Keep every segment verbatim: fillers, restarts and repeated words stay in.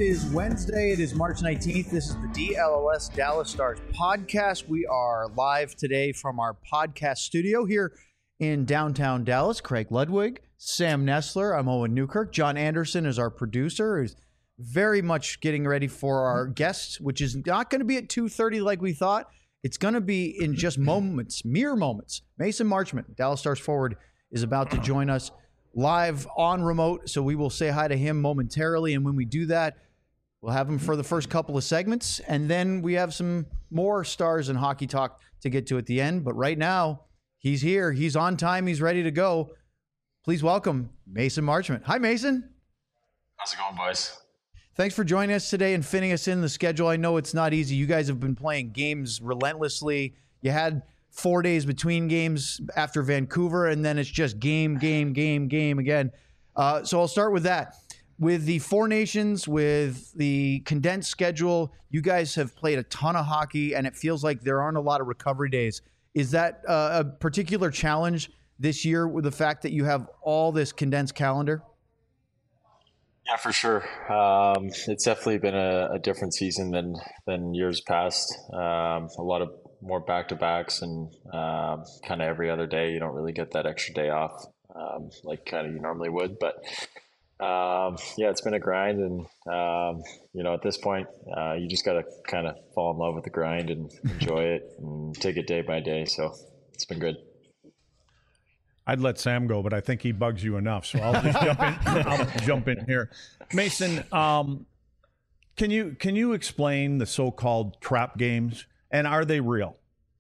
is Wednesday. It is March nineteenth. This is the D L L S Dallas Stars podcast. We are live today from our podcast studio here in downtown Dallas. Craig Ludwig, Sam Nestler, I'm Owen Newkirk. John Anderson is our producer, who's very much getting ready for our guests, which is not going to be at two thirty like we thought. It's going to be in just moments, mere moments. Mason Marchment, Dallas Stars forward, is about to join us live on remote, so we will say hi to him momentarily, and when we do that, we'll have him for the first couple of segments, and then we have some more Stars and hockey talk to get to at the end. But right now, he's here. He's on time. He's ready to go. Please welcome Mason Marchment. Hi, Mason. How's it going, boys? Thanks for joining us today and fitting us in the schedule. I know it's not easy. You guys have been playing games relentlessly. You had four days between games after Vancouver, and then it's just game, game, game, game again. Uh, so I'll start with that. With the Four Nations, with the condensed schedule, you guys have played a ton of hockey, and it feels like there aren't a lot of recovery days. Is that uh, a particular challenge this year with the fact that you have all this condensed calendar? Yeah, for sure. Um, it's definitely been a, a different season than than years past. Um, a lot of more back-to-backs and um, kind of every other day. You don't really get that extra day off um, like kind of you normally would. But um, yeah, it's been a grind. And, um, you know, at this point, uh, you just got to kind of fall in love with the grind and enjoy it and take it day by day. So it's been good. I'd let Sam go, but I think he bugs you enough. So I'll just jump in. I'll jump in here. Mason, um, can you can you explain the so-called trap games? And are they real?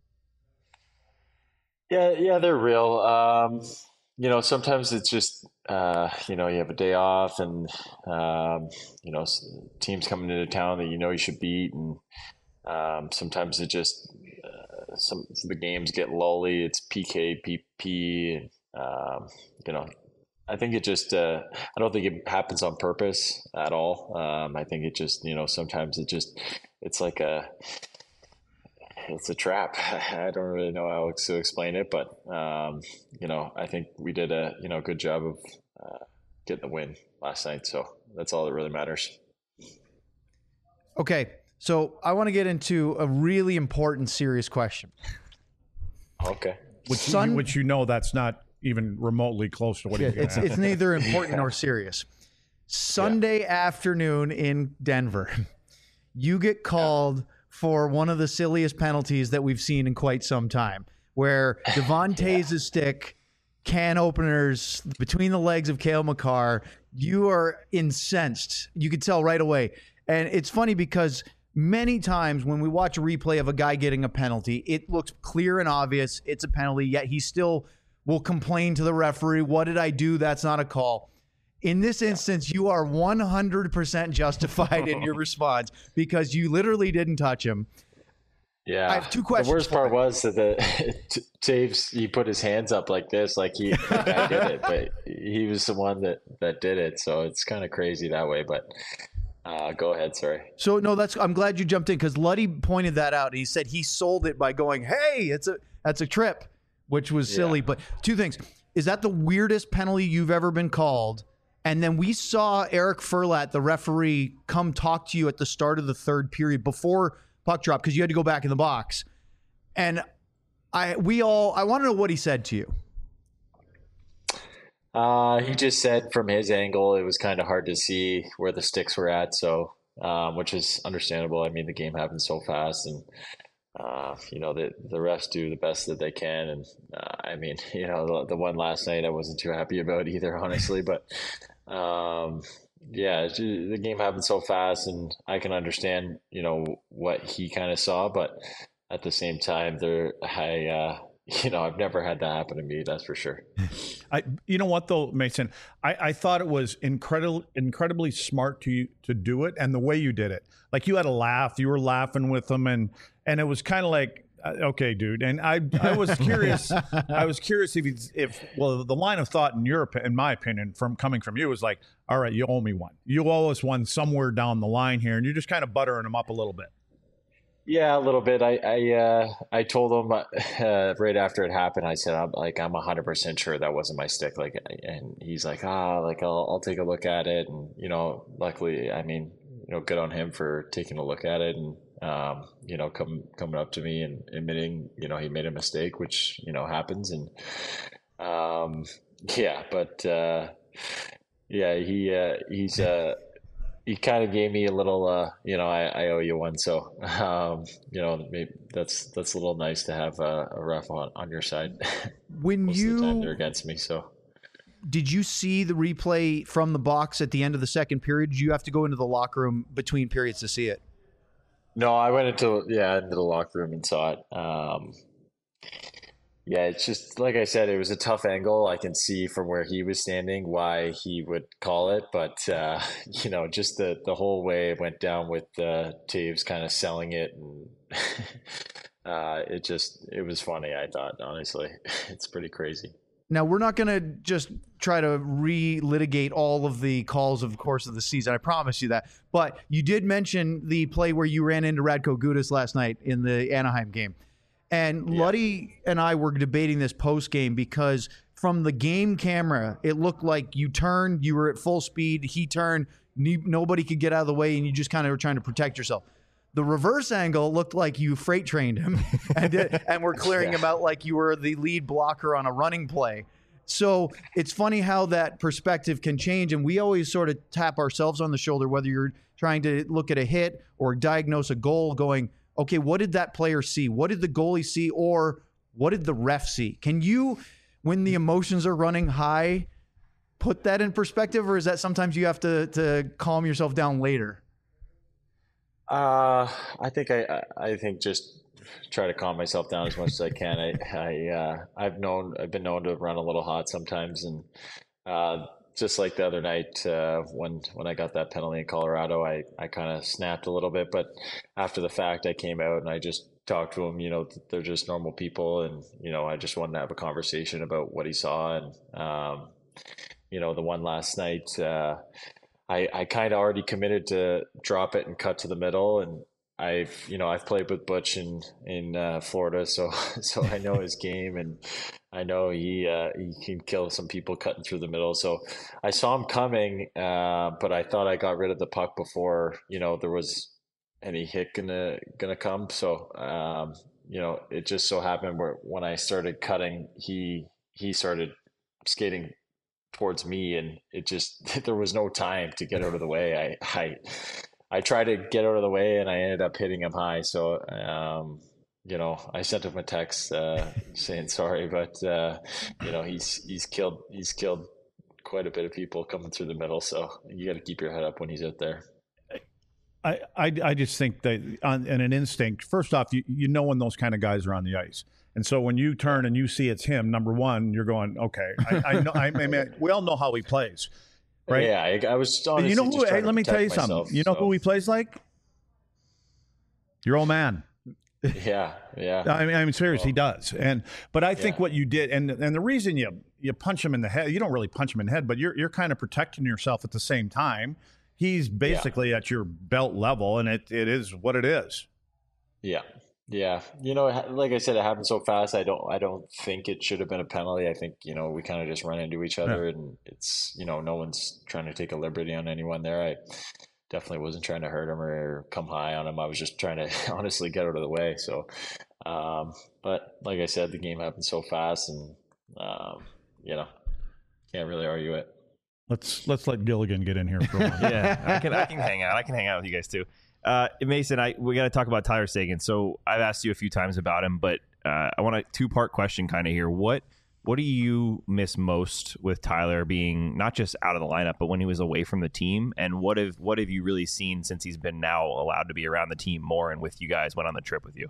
Yeah, yeah, they're real. Um, you know, sometimes it's just, uh, you know, you have a day off and, um, you know, teams coming into town that you know you should beat. And um, sometimes it just, uh, some, some of the games get lully. It's P K, P P, and, um, you know, I think it just, uh, I don't think it happens on purpose at all. Um, I think it just, you know, sometimes it just, it's like a, it's a trap. I don't really know how to explain it, but um, you know, I think we did a you know good job of uh, getting the win last night. So that's all that really matters. Okay, so I want to get into a really important, serious question. Okay. Which, Sun- you, which you know that's not even remotely close to what he's going It's to it's neither important nor serious. Sunday yeah. afternoon in Denver, you get called. Yeah. for one of the silliest penalties that we've seen in quite some time, where Devon Tays' yeah. stick, can openers between the legs of Cale Makar. You are incensed. You could tell right away. And it's funny because many times when we watch a replay of a guy getting a penalty, it looks clear and obvious it's a penalty, yet he still will complain to the referee, what did I do? That's not a call. In this instance, you are one hundred percent justified in your response because you literally didn't touch him. Yeah. I have two questions. The worst part was that the Taves, he put his hands up like this, like he like I did it, but he was the one that, that did it. So it's kind of crazy that way, but uh, go ahead. Sorry. So no, that's, I'm glad you jumped in because Luddy pointed that out. He said he sold it by going, hey, it's a, that's a trip, which was silly. Yeah. But two things. Is that the weirdest penalty you've ever been called? And then we saw Eric Furlat, the referee, come talk to you at the start of the third period before puck drop because you had to go back in the box. And I, we all, I want to know what he said to you. Uh, he just said from his angle, it was kind of hard to see where the sticks were at. So, um, which is understandable. I mean, the game happens so fast and, uh, you know, the, the refs do the best that they can. And, uh, I mean, you know, the, the one last night I wasn't too happy about either, honestly, but, um, yeah, the game happened so fast and I can understand, you know, what he kind of saw, but at the same time there, I, uh, you know, I've never had that happen to me. That's for sure. I, you know what though, Mason, I, I thought it was incredible, incredibly smart to you to do it. And the way you did it, like you had a laugh, you were laughing with them and, and it was kind of like, okay, dude. And I, I was curious. I was curious if, he's, if, well, the line of thought in your, in my opinion, from coming from you was like, all right, you owe me one. You owe us one somewhere down the line here, and you're just kind of buttering them up a little bit. Yeah, a little bit. I I, uh, I told him uh, right after it happened. I said, I'm like, I'm a hundred percent sure that wasn't my stick. Like, and he's like, ah, like I'll I'll take a look at it. And you know, luckily, I mean, you know, good on him for taking a look at it and, um, you know, come, coming up to me and admitting, you know, he made a mistake, which, you know, happens. And, um, yeah, but, uh, yeah, he, uh, he's, uh, he kind of gave me a little, uh, you know, I, I owe you one. So, um, you know, maybe that's, that's a little nice to have a, a ref on, on your side. When Most you, of the time they're against me. So did you see the replay from the box at the end of the second period? Did you have to go into the locker room between periods to see it? no, I went into, yeah, into the locker room and saw it. Um, Yeah, it's just like I said, it was a tough angle. I can see from where he was standing why he would call it, but uh, you know, just the the whole way it went down with uh, Taves kind of selling it, and uh, it just it was funny. I thought, honestly, it's pretty crazy. Now, we're not going to just try to re-litigate all of the calls of the course of the season. I promise you that. But you did mention the play where you ran into Radko Gudas last night in the Anaheim game. And Yeah. Luddy and I were debating this post-game because from the game camera, it looked like you turned, you were at full speed, he turned, ne- nobody could get out of the way, and you just kind of were trying to protect yourself. The reverse angle looked like you freight trained him and, did, and were clearing Yeah. him out like you were the lead blocker on a running play. So it's funny how that perspective can change, and we always sort of tap ourselves on the shoulder, whether you're trying to look at a hit or diagnose a goal going, okay, what did that player see? What did the goalie see? Or what did the ref see? Can you, when the emotions are running high, put that in perspective? Or is that sometimes you have to, to calm yourself down later? Uh, I think I, I I think just try to calm myself down as much as I can. I, I, uh, I've known, I've been known to run a little hot sometimes. And, uh, just like the other night, uh, when, when I got that penalty in Colorado, I, I kind of snapped a little bit, but after the fact I came out and I just talked to him, you know, they're just normal people. And, you know, I just wanted to have a conversation about what he saw. And, um, you know, the one last night, uh, I, I kind of already committed to drop it and cut to the middle. And I've, you know, I've played with Butch in, in uh, Florida, so so I know his game, and I know he uh, he can kill some people cutting through the middle. So I saw him coming, uh, but I thought I got rid of the puck before, you know, there was any hit gonna gonna come. So um, you know, it just so happened where when I started cutting, he he started skating towards me, and it just there was no time to get out of the way. I I I tried to get out of the way, and I ended up hitting him high. So um, you know, I sent him a text uh, saying sorry, but uh, you know, he's he's killed he's killed quite a bit of people coming through the middle. So you got to keep your head up when he's out there. I, I, I just think that on in an instinct, first off, you, you know when those kind of guys are on the ice. And so when you turn and you see it's him, number one, you're going, okay, I, I know. I mean, we all know how he plays, right? Yeah, I, I was. But you know who? Hey, let me tell you myself, something. You know so. who he plays like? Your old man. Yeah, yeah. I mean, I mean, seriously, he does. And but I think Yeah. what you did, and and the reason you you punch him in the head, you don't really punch him in the head, but you're you're kind of protecting yourself at the same time. He's basically at your belt level, and it, it is what it is. Yeah, yeah. You know, like I said, it happened so fast. I don't, I don't think it should have been a penalty. I think, you know, we kind of just run into each other, yeah. and it's, you know, no one's trying to take a liberty on anyone there. I definitely wasn't trying to hurt him or come high on him. I was just trying to honestly get out of the way. So, um, but like I said, the game happened so fast, and um, you know, can't really argue it. Let's let's let Gilligan get in here for a moment. Yeah, I can I can hang out. I can hang out with you guys too. Uh, Mason, I we got to talk about Tyler Seguin. So I've asked you a few times about him, but uh, I want a two part question kind of here. What what do you miss most with Tyler being not just out of the lineup, but when he was away from the team? And what have what have you really seen since he's been now allowed to be around the team more and with you guys, went on the trip with you?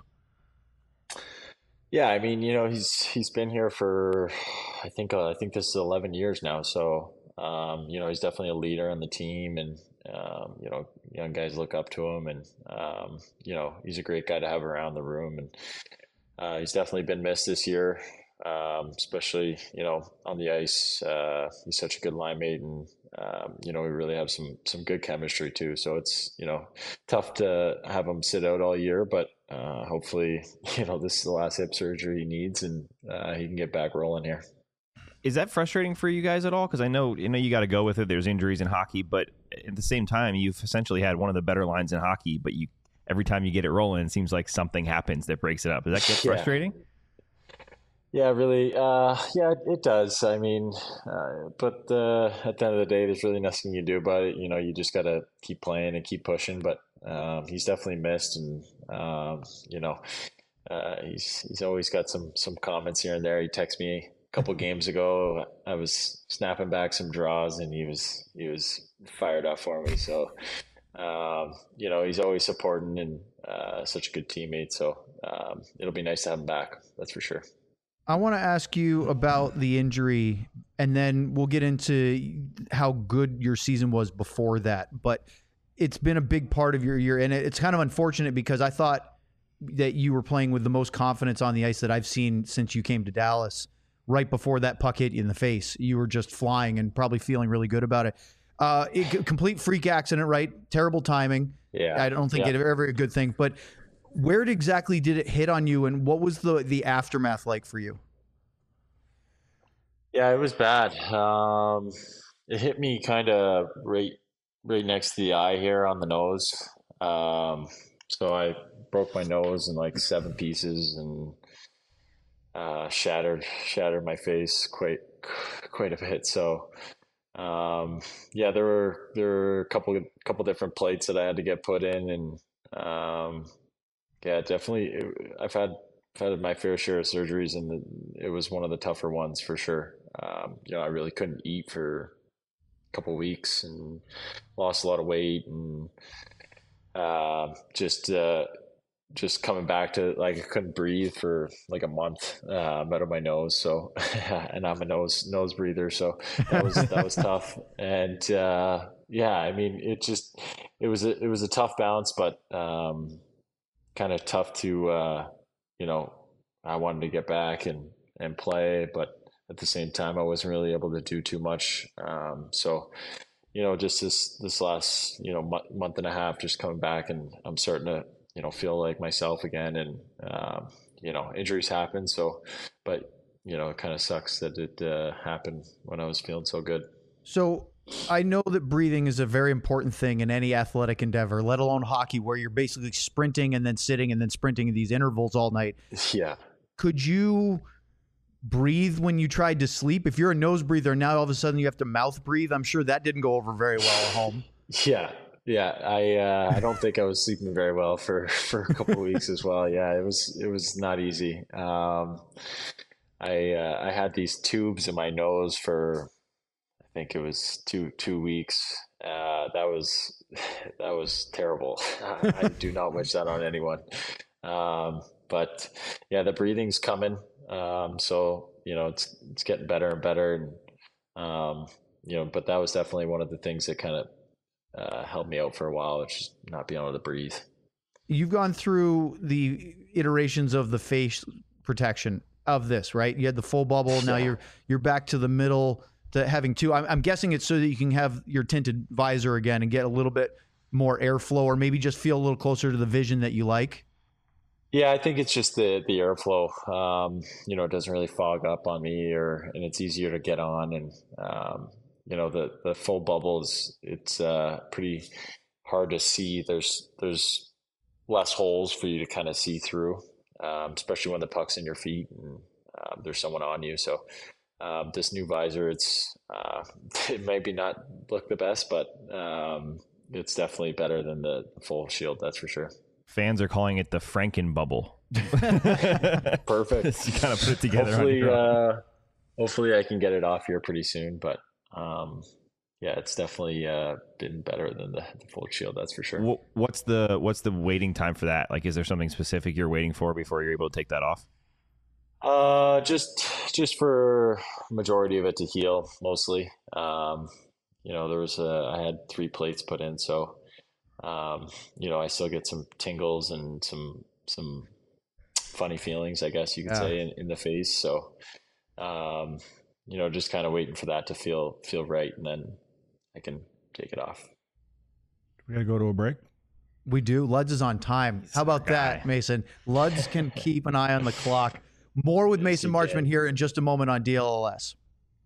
Yeah, I mean, you know, he's he's been here for I think uh, I think this is eleven years now. So. Um, you know, he's definitely a leader on the team, and, um, you know, young guys look up to him, and, um, you know, he's a great guy to have around the room, and uh, he's definitely been missed this year, um, especially, you know, on the ice. Uh, he's such a good line mate, and, um, you know, we really have some, some good chemistry too. So it's, you know, tough to have him sit out all year, but uh, hopefully, you know, this is the last hip surgery he needs, and uh, he can get back rolling here. is that frustrating for you guys at all? Because I know you know you got to go with it. There's injuries in hockey, but at the same time, you've essentially had one of the better lines in hockey. But you every time you get it rolling, it seems like something happens that breaks it up. Does that get frustrating? Yeah. Yeah, really. Uh, yeah, it does. I mean, uh, but uh, at the end of the day, there's really nothing you can do about it. You know, you just got to keep playing and keep pushing. But um, he's definitely missed, and um, you know, uh, he's he's always got some some comments here and there. He texted me a couple games ago. I was snapping back some draws, and he was he was fired up for me. So, um, you know, he's always supporting and uh, such a good teammate. So um, it'll be nice to have him back. That's for sure. I want to ask you about the injury, and then we'll get into how good your season was before that. But it's been a big part of your year, and it's kind of unfortunate because I thought that you were playing with the most confidence on the ice that I've seen since you came to Dallas. Right before that puck hit you in the face, you were just flying and probably feeling really good about it. Uh, it complete freak accident, right? Terrible timing. Yeah, I don't think yeah. it's ever a good thing, but where exactly did it hit on you, and what was the the aftermath like for you? Yeah, it was bad. Um, it hit me kind of right right next to the eye here on the nose. Um, so I broke my nose in like seven pieces and uh, shattered shattered my face quite quite a bit. So um, yeah, there were there were a couple couple different plates that I had to get put in, and um, yeah, definitely. I've had I've had my fair share of surgeries, and the, it was one of the tougher ones for sure. Um, you know, I really couldn't eat for a couple of weeks and lost a lot of weight, and uh, just uh, just coming back to like I couldn't breathe for like a month uh, out of my nose. So, and I'm a nose nose breather, so that was that was tough. And uh, yeah, I mean, it just it was a, it was a tough bounce, but um, kind of tough to uh, you know. I wanted to get back and and play, but at the same time, I wasn't really able to do too much. Um, so, you know, just this this last you know month, month and a half, just coming back, and I'm starting to you know feel like myself again. And um, you know, injuries happen. So, but you know, it kind of sucks that it uh, happened when I was feeling so good. So I know that breathing is a very important thing in any athletic endeavor, let alone hockey, where you're basically sprinting and then sitting and then sprinting in these intervals all night. Yeah. Could you breathe when you tried to sleep? If you're a nose breather, now all of a sudden you have to mouth breathe. I'm sure that didn't go over very well at home. Yeah. Yeah. I, uh, I don't think I was sleeping very well for, for a couple of weeks as well. Yeah. It was, it was not easy. Um, I, uh, I had these tubes in my nose for, I think it was two, two weeks. Uh, that was, that was terrible. I do not wish that on anyone. Um, But yeah, the breathing's coming. Um, so, you know, it's, it's getting better and better. And, um, you know, but that was definitely one of the things that kind of uh, helped me out for a while, which is not being able to breathe. You've gone through the iterations of the face protection of this, right? You had the full bubble. Now Yeah. you're, you're back to the middle to having two. I'm, I'm guessing it's so that you can have your tinted visor again and get a little bit more airflow, or maybe just feel a little closer to the vision that you like. Yeah, I think it's just the the airflow. Um, you know, it doesn't really fog up on me, or and it's easier to get on. And um, you know, the the full bubbles, it's uh, pretty hard to see. There's there's less holes for you to kind of see through, um, especially when the puck's in your feet and uh, there's someone on you. So um, this new visor, it's uh, it maybe not look the best, but um, it's definitely better than the full shield. That's for sure. Fans are calling it the Franken bubble. Perfect. You kind of put it together. Hopefully, uh, hopefully I can get it off here pretty soon. But um, yeah, it's definitely uh, been better than the, the full shield. That's for sure. What's the what's the waiting time for that? Like, is there something specific you're waiting for before you're able to take that off? Uh, just just for majority of it to heal, mostly. Um, you know, there was a, I had three plates put in, so. Um, you know, I still get some tingles and some some funny feelings, I guess you could Yeah. say, in, in the face. So, um, you know, just kind of waiting for that to feel feel right, and then I can take it off. We got to go to a break. We do. Luds is on time. How about that, guy. Mason? Luds can keep an eye on the clock. More with Yes, Mason he Marchman can. here in just a moment on D L L S.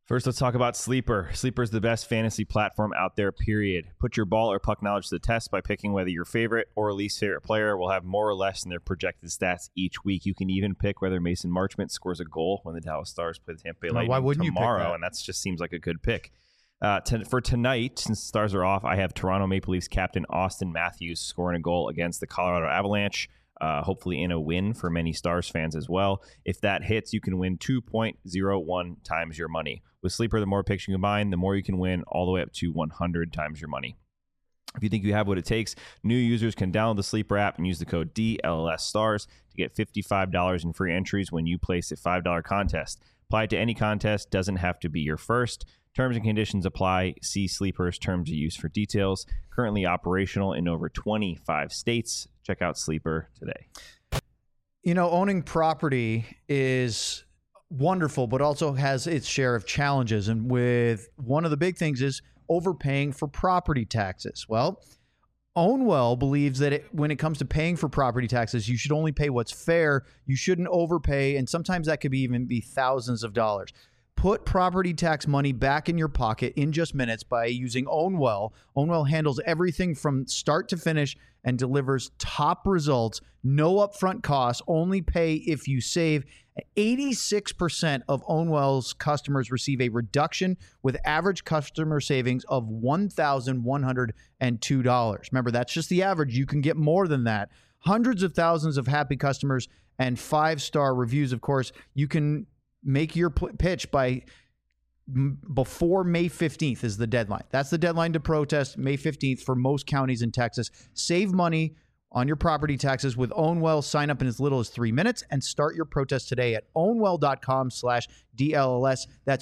First, let's talk about Sleeper. Sleeper is the best fantasy platform out there, period. Put your ball or puck knowledge to the test by picking whether your favorite or least favorite player will have more or less in their projected stats each week. You can even pick whether Mason Marchment scores a goal when the Dallas Stars play the Tampa Bay Lightning why wouldn't tomorrow, you pick that? And that just seems like a good pick. Uh, to, for tonight, since the Stars are off, I have Toronto Maple Leafs captain Austin Matthews scoring a goal against the Colorado Avalanche. Uh, hopefully in a win for many Stars fans as well. If that hits, you can win two point oh one times your money. With Sleeper, the more picks you combine, the more you can win, all the way up to one hundred times your money. If you think you have what it takes, new users can download the Sleeper app and use the code D L L S Stars to get fifty-five dollars in free entries when you place a five dollar contest. Apply it to any contest, doesn't have to be your first. Terms and conditions apply. See Sleeper's terms of use for details. Currently operational in over twenty-five states. Check out Sleeper today. You know, owning property is wonderful, but also has its share of challenges. And with one of the big things is overpaying for property taxes. Well, Ownwell believes that it, when it comes to paying for property taxes, you should only pay what's fair. You shouldn't overpay. And sometimes that could be even be thousands of dollars. Put property tax money back in your pocket in just minutes by using Ownwell. Ownwell handles everything from start to finish and delivers top results. No upfront costs, only pay if you save. eighty-six percent of Ownwell's customers receive a reduction with average customer savings of one thousand one hundred two dollars. Remember, that's just the average. You can get more than that. Hundreds of thousands of happy customers and five-star reviews, of course. You can make your p- pitch by m- before May fifteenth is the deadline. That's the deadline to protest, May fifteenth for most counties in Texas. Save money on your property taxes with Ownwell. Sign up in as little as three minutes and start your protest today at ownwell.com slash DLLS. That's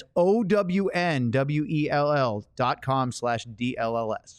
O-W-N-W-E-L-L dot com slash D-L-L-S.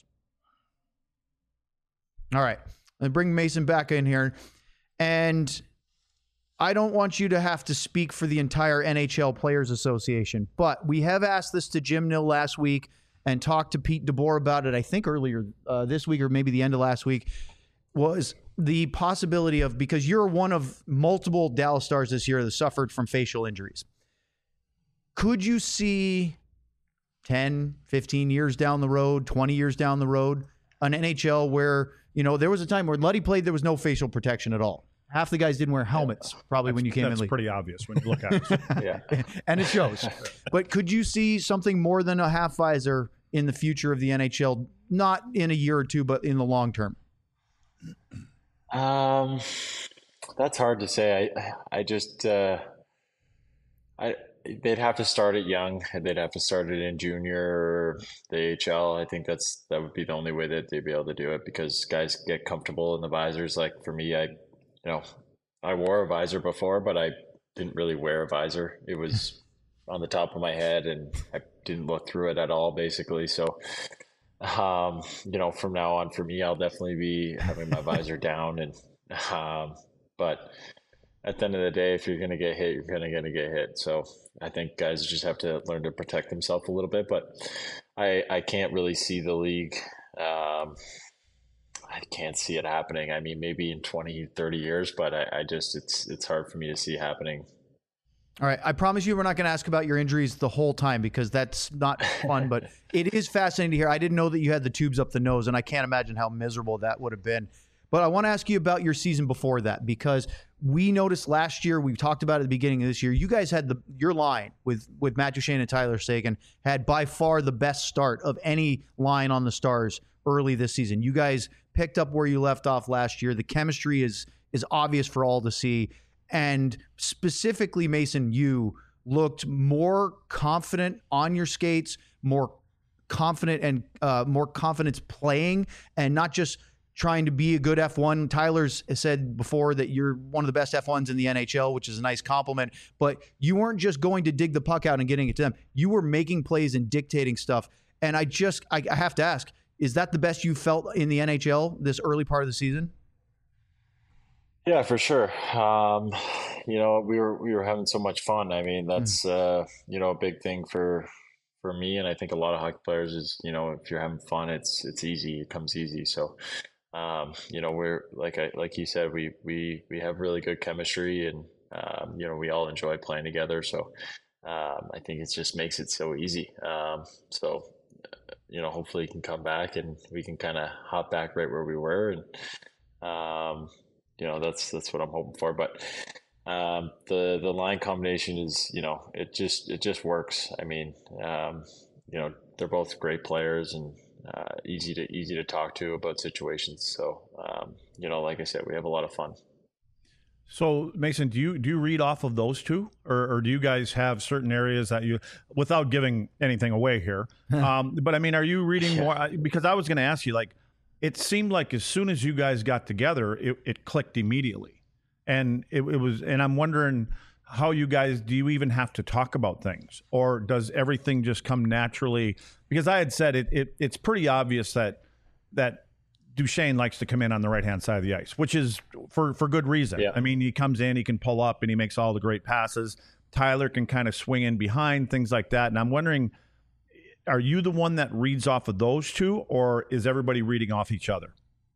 All right. Let's bring Mason back in here. And I don't want you to have to speak for the entire N H L Players Association, but we have asked this to Jim Nill last week and talked to Pete DeBoer about it, I think earlier uh, this week or maybe the end of last week, was the possibility of, because you're one of multiple Dallas Stars this year that suffered from facial injuries. Could you see ten, fifteen years down the road, twenty years down the road, an N H L where, you know, there was a time where Luddy played, there was no facial protection at all. Half the guys didn't wear helmets, probably That's, when you came in. That's league. pretty obvious when you look at it. Yeah. And it shows. But could you see something more than a half visor in the future of the N H L, not in a year or two, but in the long term? Um, that's hard to say. I, I just, uh, I, they'd have to start it young. They'd have to start it in junior or the A H L. I think that's, that would be the only way that they'd be able to do it, because guys get comfortable in the visors. Like for me, I, you know, I wore a visor before, but I didn't really wear a visor. It was on the top of my head and I didn't look through it at all, basically. So, um, you know, from now on for me, I'll definitely be having my visor down. And, um, but at the end of the day, if you're going to get hit, you're going to gonna get hit. So I think guys just have to learn to protect themselves a little bit, but I, I can't really see the league. Um, I can't see it happening. I mean, maybe in twenty, thirty years, but I, I just, it's, it's hard for me to see happening. All right. I promise you we're not going to ask about your injuries the whole time, because that's not fun, but it is fascinating to hear. I didn't know that you had the tubes up the nose, and I can't imagine how miserable that would have been. But I want to ask you about your season before that, because we noticed last year, we talked about at the beginning of this year, you guys had the your line with, with Matt Duchene and Tyler Seguin had by far the best start of any line on the Stars early this season. You guys picked up where you left off last year. The chemistry is is obvious for all to see. And specifically, Mason, you looked more confident on your skates, more confident and uh, more confidence playing, and not just trying to be a good F one. Tyler's said before that you're one of the best F ones in the N H L, which is a nice compliment. But you weren't just going to dig the puck out and getting it to them. You were making plays and dictating stuff. And I just, I, I have to ask, is that the best you felt in the N H L this early part of the season? Yeah, for sure. Um, you know, we were we were having so much fun. I mean, that's mm. uh, you know, a big thing for for me, and I think a lot of hockey players is, you know, if you're having fun, it's it's easy. It comes easy. So, um, you know, we're like I like you said, we we we have really good chemistry, and um, you know, we all enjoy playing together. So, um, I think it just makes it so easy. Um, so, you know, hopefully he can come back and we can kind of hop back right where we were. And, um, you know, that's, that's what I'm hoping for. But, um, the, the line combination is, you know, it just, it just works. I mean, um, you know, they're both great players and, uh, easy to, easy to talk to about situations. So, um, you know, like I said, we have a lot of fun. So, Mason, do you do you read off of those two, or, or do you guys have certain areas that you, without giving anything away here, um, but I mean, are you reading Yeah. more? Because I was going to ask you, like, it seemed like as soon as you guys got together, it, it clicked immediately, and it, it was, and I'm wondering how you guys, do you even have to talk about things, or does everything just come naturally? Because I had said it, it it's pretty obvious that that. Duchesne likes to come in on the right-hand side of the ice, which is for, for good reason. Yeah. I mean, he comes in, he can pull up, and he makes all the great passes. Tyler can kind of swing in behind, things like that. And I'm wondering, are you the one that reads off of those two, or is everybody reading off each other?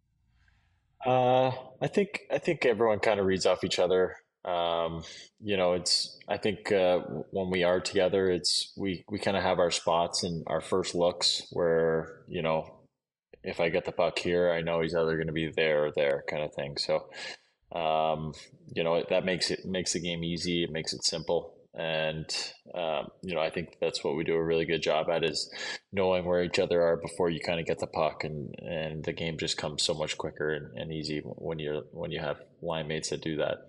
Uh, I think I think everyone kind of reads off each other. Um, you know, it's I think uh, when we are together, it's we we kind of have our spots and our first looks where, you know, if I get the puck here, I know he's either going to be there or there, kind of thing. So, um, you know, that makes it makes the game easy. It makes it simple, and um, you know, I think that's what we do a really good job at, is knowing where each other are before you kind of get the puck, and, and the game just comes so much quicker and, and easy when you're when you have line mates that do that.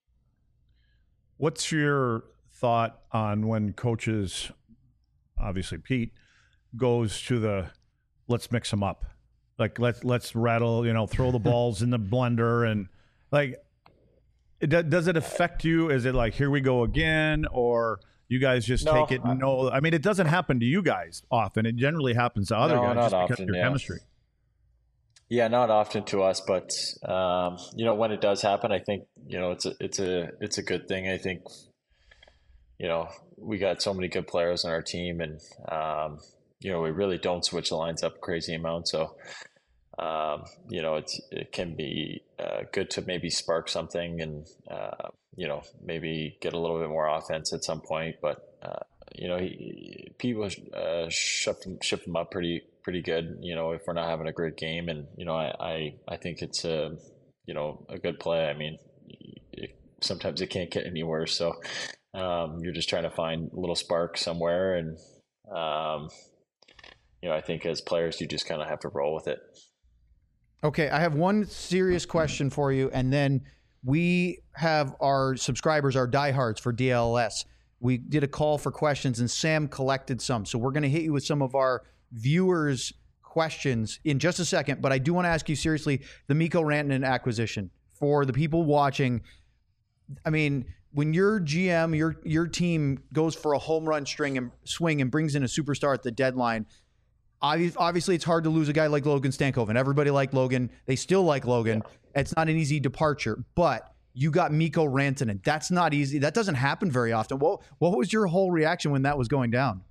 What's your thought on when coaches, obviously Pete, goes to the let's mix them up? Like, let's let's rattle, you know, throw the balls in the blender, and like, it, does it affect you? Is it like, here we go again, or you guys just No, take it? I- No, I mean, it doesn't happen to you guys often. It generally happens to other No, guys not just because often, of your yeah. chemistry. Yeah, not often to us, but um, you know, when it does happen, I think, you know, it's a it's a it's a good thing. I think, you know, we got so many good players on our team, and um, you know, we really don't switch the lines up a crazy amount. So, um, you know, it's it can be uh, good to maybe spark something, and uh, you know, maybe get a little bit more offense at some point. But uh, you know, he, people uh, shift them, shift them up pretty pretty good. You know, if we're not having a great game, and you know, I I, I think it's a you know a good play. I mean, it, sometimes it can't get any worse. So um, you're just trying to find a little spark somewhere, and um, you know, I think as players, you just kind of have to roll with it. Okay, I have one serious question for you, and then we have our subscribers, our diehards for D L S. We did a call for questions, and Sam collected some. So we're going to hit you with some of our viewers' questions in just a second. But I do want to ask you seriously, the Mikko Rantanen acquisition. For the people watching, I mean, when your G M, your your team goes for a home run string and swing and brings in a superstar at the deadline, obviously it's hard to lose a guy like Logan Stankoven. Everybody liked Logan. They still like Logan. It's not an easy departure, but you got Mikko Rantanen. That's not easy. That doesn't happen very often. What what was your whole reaction when that was going down?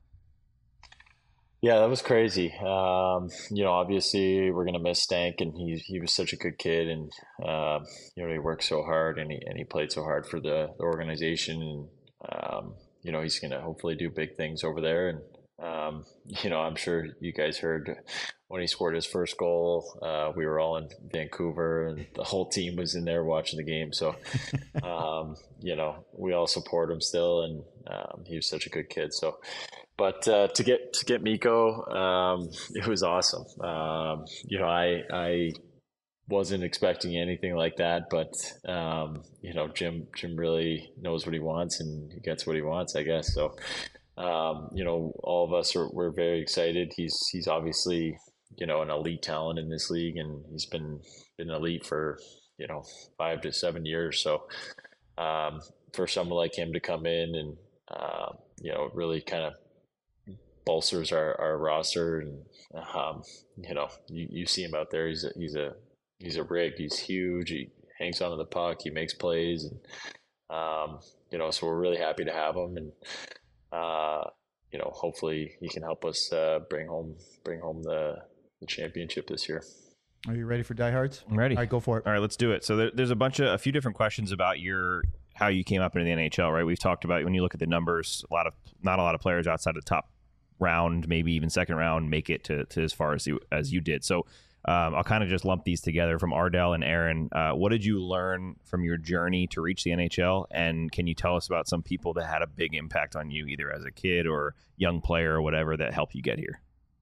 Yeah, that was crazy. Um, you know, obviously we're gonna miss Stank, and he he was such a good kid, and uh, you know, he worked so hard, and he and he played so hard for the, the organization, and um, you know, he's gonna hopefully do big things over there. And um, you know, I'm sure you guys heard when he scored his first goal. Uh, we were all in Vancouver, and the whole team was in there watching the game. So, um, you know, we all support him still, and um, he was such a good kid. So. But uh, to get to get Mikko, um, it was awesome. Um, you know, I I wasn't expecting anything like that, but um, you know, Jim Jim really knows what he wants, and he gets what he wants, I guess. So, um, you know, all of us are we're very excited. He's he's obviously, you know, an elite talent in this league, and he's been been elite for, you know, five to seven years. So, um, for someone like him to come in and uh, you know, really kind of bolsters our, our roster, and um, you know, you, you see him out there. He's a, he's a he's a rig. He's huge. He hangs onto the puck. He makes plays, and um, you know, so we're really happy to have him. And uh, you know, hopefully he can help us uh, bring home bring home the, the championship this year. Are you ready for diehards? I'm ready. All right, go for it. All right, let's do it. So there, there's a bunch of a few different questions about your how you came up into the N H L, right? We've talked about when you look at the numbers, a lot of not a lot of players outside the top round, maybe even second round, make it to, to as far as you as you did. So um, I'll kind of just lump these together from Ardell and Aaron. Uh, what did you learn from your journey to reach the N H L? And can you tell us about some people that had a big impact on you, either as a kid or young player or whatever, that helped you get here?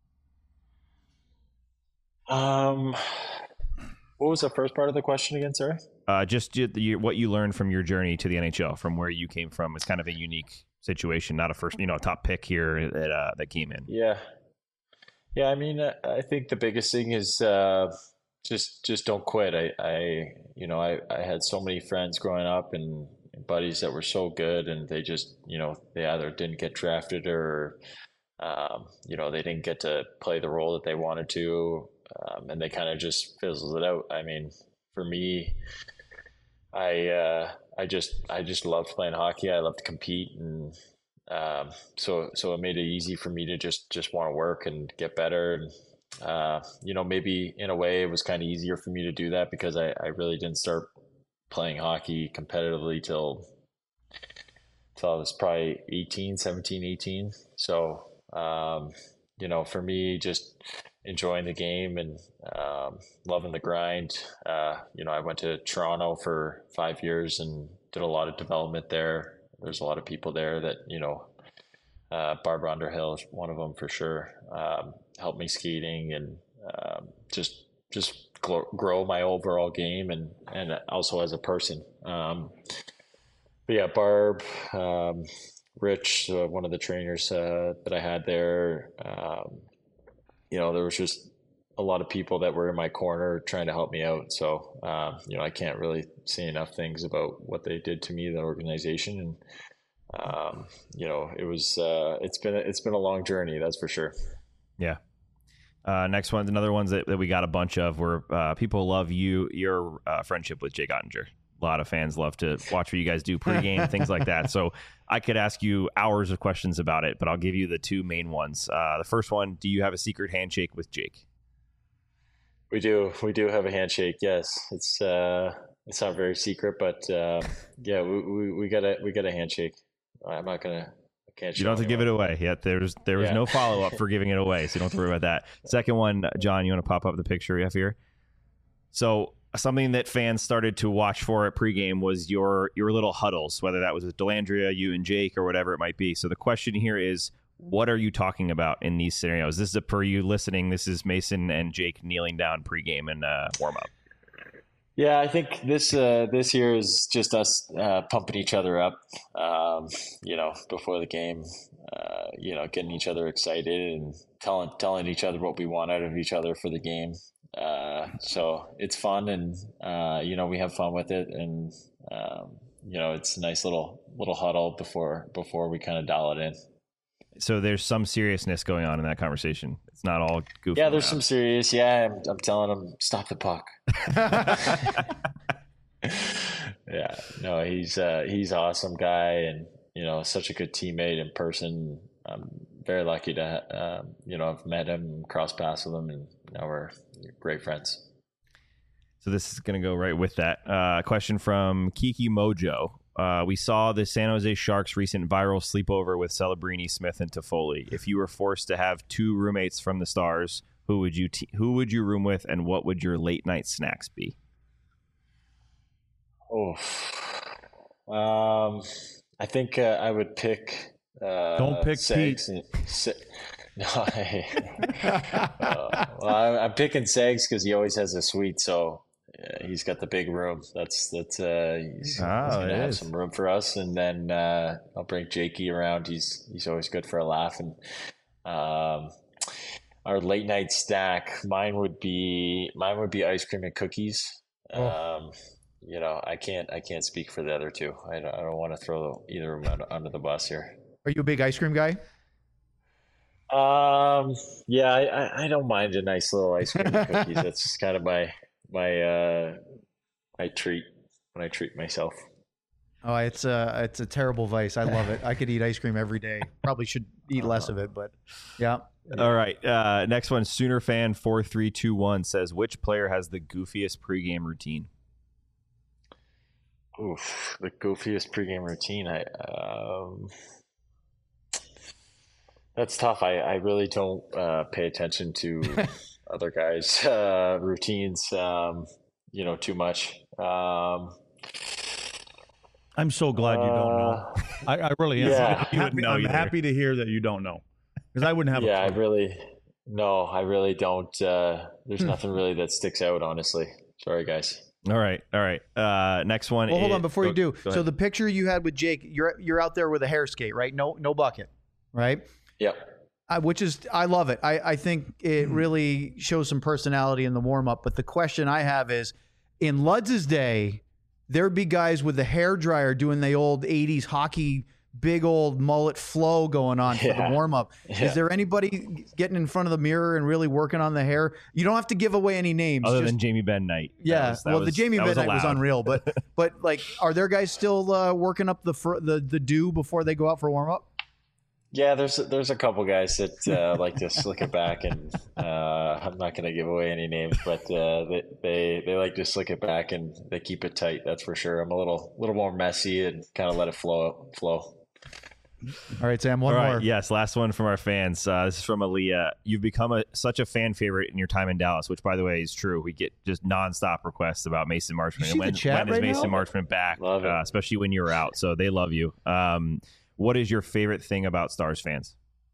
Um, what was the first part of the question again? Sorry. Uh, just you, what you learned from your journey to the N H L, from where you came from. It's kind of a unique situation, not a first, you know, top pick here that uh, that came in. Yeah. Yeah, I mean, I think the biggest thing is uh, just just don't quit. I, I you know, I, I had so many friends growing up and buddies that were so good, and they just, you know, they either didn't get drafted or, um, you know, they didn't get to play the role that they wanted to, um, and they kind of just fizzled it out. I mean, for me, I uh, I just I just loved playing hockey. I loved to compete, and Um, so, so it made it easy for me to just, just want to work and get better. And, uh, you know, maybe in a way it was kind of easier for me to do that because I, I really didn't start playing hockey competitively till, till I was probably eighteen, seventeen, eighteen. So, um, you know, for me, just enjoying the game and, um, loving the grind. Uh, you know, I went to Toronto for five years and did a lot of development there. There's a lot of people there that, you know, uh, Barbara Underhill is one of them for sure. Um, helped me skating and um, just just grow, grow my overall game and, and also as a person. Um, but yeah, Barb, um, Rich, uh, one of the trainers uh, that I had there, um, you know, there was just a lot of people that were in my corner trying to help me out. So, um, you know, I can't really say enough things about what they did to me, the organization. And, um, you know, it was, uh, it's been, it's been a long journey. That's for sure. Yeah. Uh, next one's another ones that, that we got a bunch of where uh, people love you, your uh, friendship with Jake Ottinger. A lot of fans love to watch what you guys do pregame, things like that. So I could ask you hours of questions about it, but I'll give you the two main ones. Uh, the first one, do you have a secret handshake with Jake? We do. We do have a handshake. Yes, it's uh, it's not very secret, but uh, yeah, we, we we got a we got a handshake. I'm not gonna. I can't. You don't have to give it away yet. There's there was yeah. no follow up for giving it away, so you don't have to worry about that. Second one, John, you want to pop up the picture we have here? So something that fans started to watch for at pregame was your your little huddles, whether that was with Delandria, you and Jake, or whatever it might be. So the question here is, what are you talking about in these scenarios? This is a, for you listening, this is Mason and Jake kneeling down pregame and uh, warm up. Yeah, I think this uh, this year is just us uh, pumping each other up, um, you know, before the game, uh, you know, getting each other excited and telling telling each other what we want out of each other for the game. Uh, so it's fun, and uh, you know, we have fun with it, and um, you know, it's a nice little little huddle before before we kind of dial it in. So there's some seriousness going on in that conversation. It's not all goofy. Yeah, there's around. some serious. Yeah, I'm, I'm telling him, stop the puck. Yeah, no, he's uh, he's an awesome guy, and you know, such a good teammate in person. I'm very lucky to uh, you know, I've met him, crossed paths with him, and now we're great friends. So this is going to go right with that. Uh, question from Kiki Mojo. Uh, we saw the San Jose Sharks' recent viral sleepover with Celebrini, Smith, and Toffoli. If you were forced to have two roommates from the Stars, who would you te- who would you room with, and what would your late night snacks be? Oh, um, I think uh, I would pick. Uh, Don't pick Segs. Pete. And, Se- no, I, uh, well, I'm, I'm picking Segs because he always has a suite, so. Yeah, he's got the big room. That's that's uh, he's, oh, he's gonna have is. some room for us, and then uh, I'll bring Jakey around. He's he's always good for a laugh. And um, our late night snack, mine would be mine would be ice cream and cookies. Oh. Um, you know, I can't I can't speak for the other two. I don't, I don't want to throw either of them under the bus here. Are you a big ice cream guy? Um, yeah, I, I don't mind a nice little ice cream and cookies. That's kind of my my uh my treat when I treat myself. Oh, it's a it's a terrible vice. I love it. I could eat ice cream every day. Probably should eat less of it, but yeah. All right. Uh, next one, Sooner fan four three two one says, which player has the goofiest pregame routine? Oof, the goofiest pregame routine. I um, that's tough. I, I really don't uh, pay attention to other guys' uh, routines, um, you know, too much. Um, I'm so glad you don't know. uh, I, I really am. yeah. I'm, happy, know I'm either. happy to hear that you don't know, because I wouldn't have. yeah, a I clue. really no, I really don't. Uh, there's nothing really that sticks out, honestly. Sorry, guys. All right, all right. Uh, next one. Well, hold is- on before you go- do. go So ahead. the picture you had with Jake, you're you're out there with a hair skate, right? No no bucket, right? Yep. I, which is I love it. I, I think it really shows some personality in the warm up. But the question I have is, in Ludz's day, there'd be guys with the hair dryer doing the old eighties hockey big old mullet flow going on for Yeah. the warm up. Yeah. Is there anybody getting in front of the mirror and really working on the hair? You don't have to give away any names. other just- than Jamie Benn night. That yeah, was- that well, the was- Jamie that Benn night was allowed. unreal, but but like, are there guys still uh, working up the fr- the the dew before they go out for warm up? Yeah, there's there's a couple guys that uh, like to slick it back, and uh, I'm not going to give away any names, but uh, they, they they like to slick it back and they keep it tight. That's for sure. I'm a little little more messy and kind of let it flow flow. All right, Sam, one All right, more. yes, last one from our fans. Uh, this is from Aaliyah. You've become a, such a fan favorite in your time in Dallas, which, by the way, is true. We get just nonstop requests about Mason Marchment. You see And when, the chat when is right Mason now? Marchment back? Love it. Uh, especially when you were out. So they love you. Um, what is your favorite thing about Stars fans?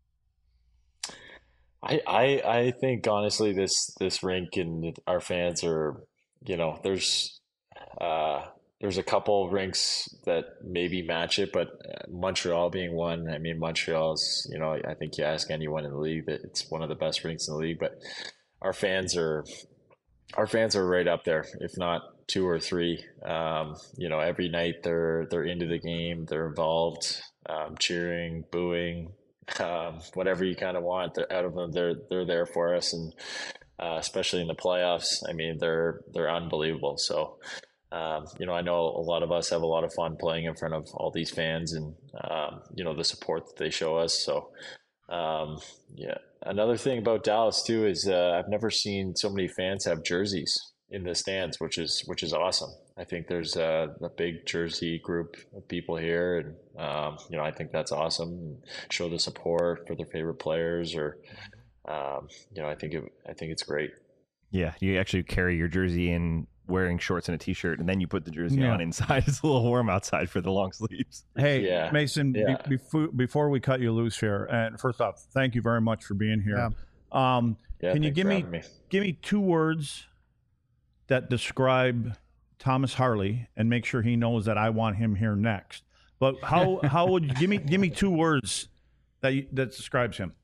I, I I think honestly this this rink and our fans are, you know, there's uh there's a couple rinks that maybe match it, but uh, Montreal being one. I mean, Montreal's, you know, I think you ask anyone in the league that it's one of the best rinks in the league, but our fans are our fans are right up there, if not two or three. Um, you know, every night they're they're into the game, they're involved, um, cheering, booing, um, whatever you kind of want they're out of them. They're they're there for us, and uh, especially in the playoffs. I mean, they're they're unbelievable. So, um, you know, I know a lot of us have a lot of fun playing in front of all these fans, and um, you know the support that they show us. So, um, yeah. Another thing about Dallas too is uh, I've never seen so many fans have jerseys in the stands, which is which is awesome. I think there's a, a big jersey group of people here, and um, you know I think that's awesome. And show the support for their favorite players, or um, you know I think it, I think it's great. Yeah, you actually carry your jersey in wearing shorts and a t-shirt, and then you put the jersey Yeah. on inside. It's a little warm outside for the long sleeves. Hey, Yeah. Mason, be- Yeah. before, before we cut you loose here, and first off, thank you very much for being here. Um, Yeah, can you thanks give for me, having me. give me two words that describe Thomas Harley, and make sure he knows that I want him here next? But how how would you give me give me two words that you, that describes him?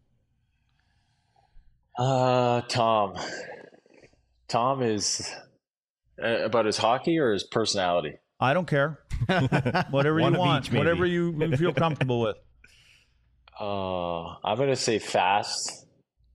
Uh, Tom. Tom is uh, about his hockey or his personality. I don't care. Whatever One you of want, each, maybe. whatever you you feel comfortable with. Uh, I'm gonna say fast.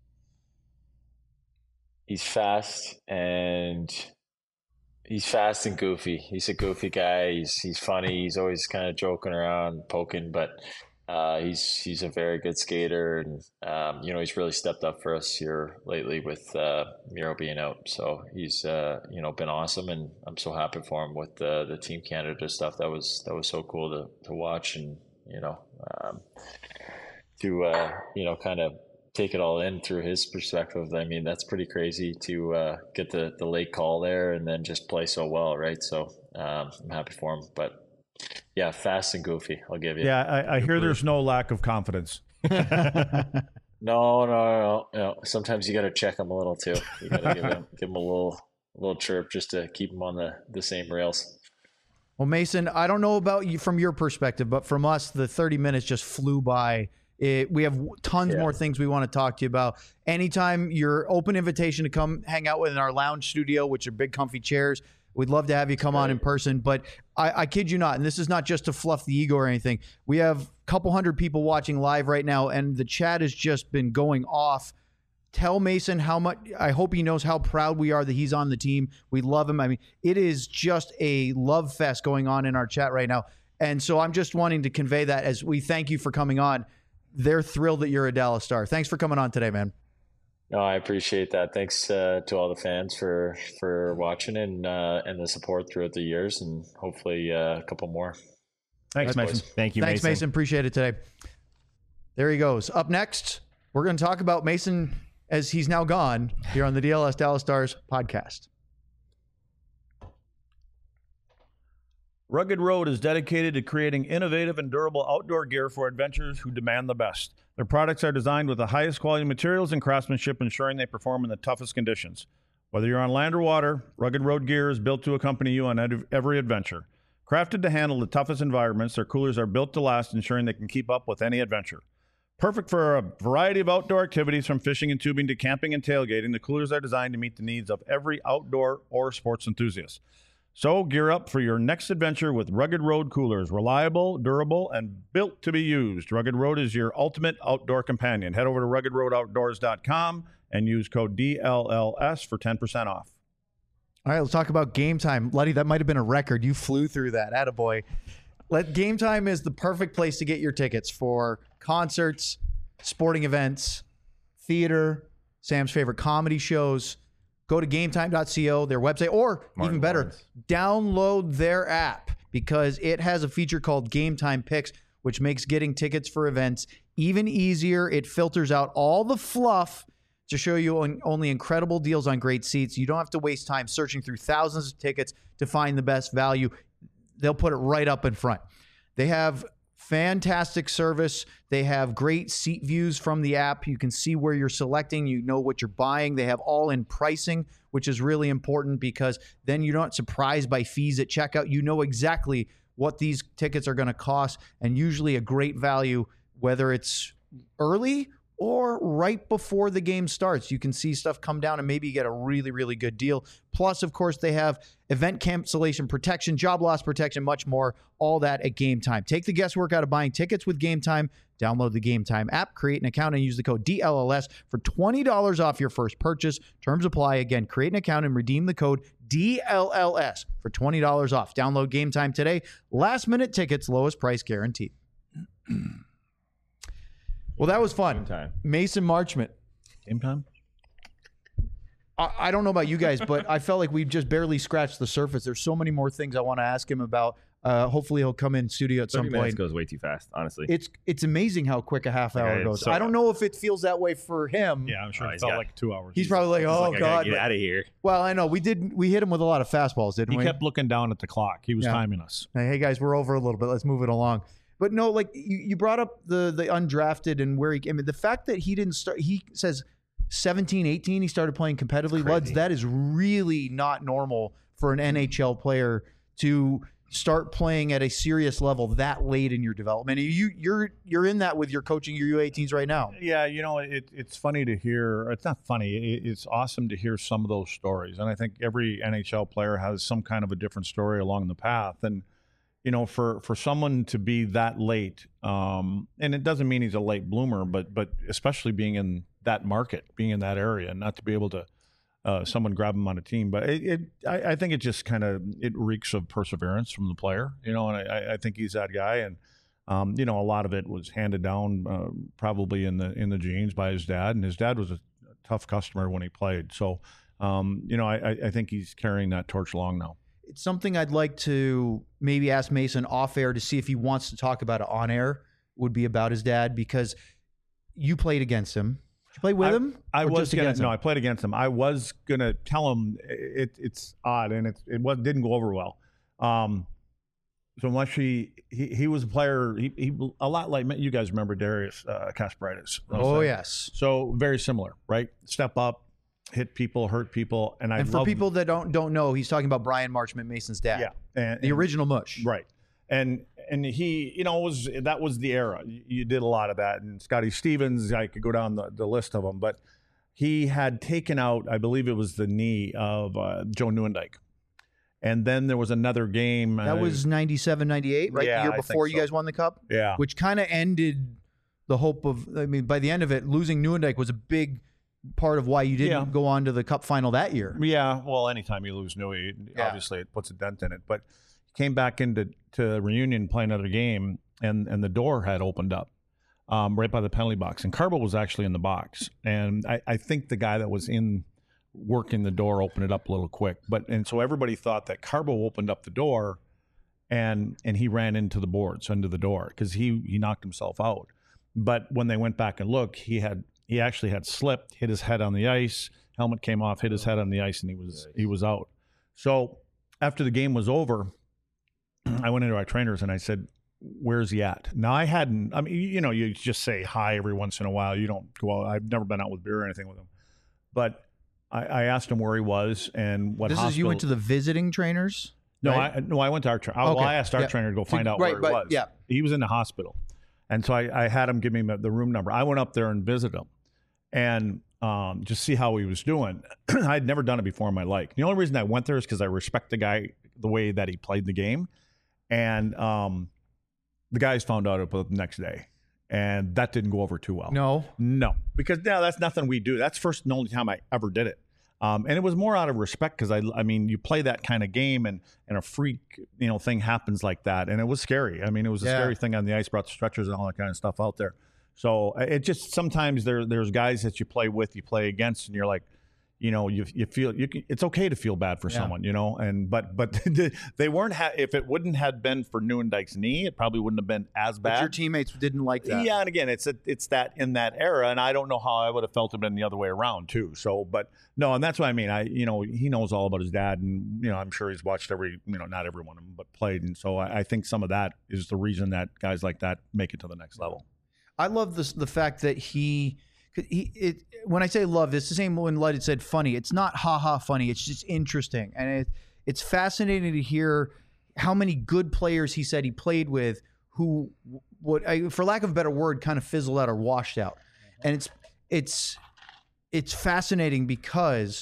He's fast and he's fast and goofy. He's a goofy guy. He's he's funny. He's always kind of joking around, poking, but uh, he's he's a very good skater, and um, you know he's really stepped up for us here lately with uh, Miro being out. So he's uh, you know been awesome, and I'm so happy for him with the the Team Canada stuff. That was that was so cool to to watch, and you know um, to uh, you know kind of take it all in through his perspective. I mean, that's pretty crazy to uh, get the, the late call there and then just play so well, right? So um, I'm happy for him. But yeah, fast and goofy, I'll give you. Yeah, I, I hear there's no lack of confidence. No, no, no, no. Sometimes you got to check him a little too. You got to give him give him a little a little chirp just to keep him on the, the same rails. Well, Mason, I don't know about you from your perspective, but from us, the thirty minutes just flew by. It, we have tons Yeah. more things we want to talk to you about. Anytime, your open invitation to come hang out with in our lounge studio, which are big, comfy chairs. We'd love to have you come on in person. But I, I kid you not, and this is not just to fluff the ego or anything. We have a couple hundred people watching live right now, and the chat has just been going off. Tell Mason how much, I hope he knows how proud we are that he's on the team. We love him. I mean, it is just a love fest going on in our chat right now. And so I'm just wanting to convey that as we thank you for coming on. They're thrilled that you're a Dallas Star. Thanks for coming on today, man. No, I appreciate that. Thanks uh, to all the fans for for watching and uh, and the support throughout the years, and hopefully uh, a couple more. Thanks, Thanks, Mason. boys. Thank you, Thanks, Mason. Mason. Appreciate it today. There he goes. Up next, we're going to talk about Mason as he's now gone here on the D L S Dallas Stars podcast. Rugged Road is dedicated to creating innovative and durable outdoor gear for adventurers who demand the best. Their products are designed with the highest quality materials and craftsmanship, ensuring they perform in the toughest conditions. Whether you're on land or water, Rugged Road gear is built to accompany you on ed- every adventure. Crafted to handle the toughest environments, their coolers are built to last, ensuring they can keep up with any adventure. Perfect for a variety of outdoor activities, from fishing and tubing to camping and tailgating, the coolers are designed to meet the needs of every outdoor or sports enthusiast. So gear up for your next adventure with Rugged Road coolers. Reliable, durable, and built to be used. Rugged Road is your ultimate outdoor companion. Head over to rugged road outdoors dot com and use code D L L S for ten percent off. All right, let's talk about Game Time. Luddy, that might have been a record. You flew through that. Attaboy. Let Game Time is the perfect place to get your tickets for concerts, sporting events, theater, Sam's favorite comedy shows. Go to game time dot co, their website, or Martin even better, Lawrence. download their app, because it has a feature called Game Time Picks, which makes getting tickets for events even easier. It filters out all the fluff to show you on- only incredible deals on great seats. You don't have to waste time searching through thousands of tickets to find the best value. They'll put it right up in front. They have fantastic service. They have great seat views from the app. You can see where you're selecting. You know what you're buying. They have all-in pricing, which is really important, because then you're not surprised by fees at checkout. You know exactly what these tickets are going to cost, and usually a great value, whether it's early or right before the game starts. You can see stuff come down and maybe get a really, really good deal. Plus, of course, they have event cancellation protection, job loss protection, much more. All that at Game Time. Take the guesswork out of buying tickets with Game Time. Download the Game Time app, create an account, and use the code D L L S for twenty dollars off your first purchase. Terms apply. Again, create an account and redeem the code D L L S for twenty dollars off. Download Game Time today. Last minute tickets, lowest price guaranteed. Well, that was fun. Game Time. Mason Marchment. Game time? I, I don't know about you guys, but I felt like we've just barely scratched the surface. There's so many more things I want to ask him about. Uh, hopefully he'll come in studio at some thirty minutes point. goes way too fast, honestly. It's it's amazing how quick a half hour Okay, goes. so- I don't know if it feels that way for him. Yeah, I'm sure Oh, it he's felt got- like two hours. He's probably like, It's oh like, I gotta god. get But- out of here. well, I know we did. We hit him with a lot of fastballs, didn't He we? kept looking down at the clock. He was Yeah. timing us. Hey, hey, guys, we're over a little bit. Let's move it along. But no, like you, you brought up the the undrafted and where he. I mean, the fact that he didn't start. He says seventeen, eighteen, he started playing competitively. Crazy. Luds, that is really not normal for an N H L player to start playing at a serious level that late in your development. You you're you're in that with your coaching your U eighteens right now. Yeah, you know, it, it's funny to hear. It's not funny. It, it's awesome to hear some of those stories. And I think every N H L player has some kind of a different story along the path. And, you know, for, for someone to be that late, um, and it doesn't mean he's a late bloomer, but but especially being in that market, being in that area, and not to be able to uh, someone grab him on a team. But it, it I, I think it just kind of it reeks of perseverance from the player, you know. And I, I think he's that guy. And um, you know, a lot of it was handed down uh, probably in the in the genes by his dad, and his dad was a tough customer when he played. So um, you know, I, I think he's carrying that torch along now. It's something I'd like to maybe ask Mason off air to see if he wants to talk about it on air. Would be about his dad, because you played against him. Did you play with I, him? I or was just gonna against no, him? I played against him. I was gonna tell him it, it's odd, and it it was, didn't go over well. Um, so unless he, he he was a player, he, he a lot like you guys remember Darius uh, Kasparaitis. Oh yes. So very similar, right? Step up, hit people, hurt people, and I And for love- people that don't don't know, he's talking about Brian Marchment, Mason's dad. yeah, and, The and- original Mush. right. And and he, you know, was that was the era. You, you did a lot of that, and Scotty Stevens. I could go down the, the list of them, but he had taken out, I believe it was the knee of uh, Joe Newendike, and then there was another game That uh, was ninety-seven, ninety-eight, right? Yeah, the year I think before you so. guys won the cup, yeah, which kind of ended the hope of, I mean, by the end of it, losing Newendike was a big part of why you didn't Yeah. go on to the cup final that year. yeah. Well, anytime you lose Newey, Yeah. obviously it puts a dent in it. But he came back into to reunion, play another game, and and the door had opened up. um, right by the penalty box. And Carbo was actually in the box. And I, I think the guy that was in working the door opened it up a little quick. But and so everybody thought that Carbo opened up the door and and he ran into the boards, into the door, because he, he knocked himself out. But when they went back and looked, he had he actually had slipped, hit his head on the ice, helmet came off, hit his head on the ice, and he was he was out. So after the game was over, I went into our trainers and I said, where's he at? Now, I hadn't, I mean, you know, you just say hi every once in a while. You don't go out. I've never been out with beer or anything with him. But I, I asked him where he was and what This hospital. is you went to the visiting trainers? No, right? I no, I went to our trainer. Well, Okay. I asked our Yeah. trainer to go find To- out right, where he right, was. yeah. He was in the hospital. And so I, I had him give me the room number. I went up there and visited him and um, just see how he was doing. I had never done it before in my life. The only reason I went there is because I respect the guy, the way that he played the game. And um, the guys found out about it the next day. And that didn't go over too well. No. No, because now that's nothing we do. That's first and only time I ever did it. Um, and it was more out of respect because I, I mean, you play that kind of game and, and a freak, you know, thing happens like that. And it was scary. I mean, it was a Yeah. scary thing on the ice, brought the stretchers and all that kind of stuff out there. So it just, sometimes there, there's guys that you play with, you play against, and you're like, you know, you you feel you can, it's okay to feel bad for Yeah. someone, you know, and but but they weren't. Ha- if it wouldn't have been for Nieuwendyke's knee, it probably wouldn't have been as But bad. your teammates didn't like that. Yeah, and again, it's a, it's that in that era, and I don't know how I would have felt it been the other way around too. So, but no, and that's what I mean. I you know he knows all about his dad, and you know I'm sure he's watched every you know not every one of them, but played, and so I, I think some of that is the reason that guys like that make it to the next level. I love this the fact that he. He, it, when I say love, it's the same when Lud had said funny. It's not ha ha funny. It's just interesting, and it, it's fascinating to hear how many good players he said he played with who, what I, for lack of a better word, kind of fizzled out or washed out. And it's it's it's fascinating because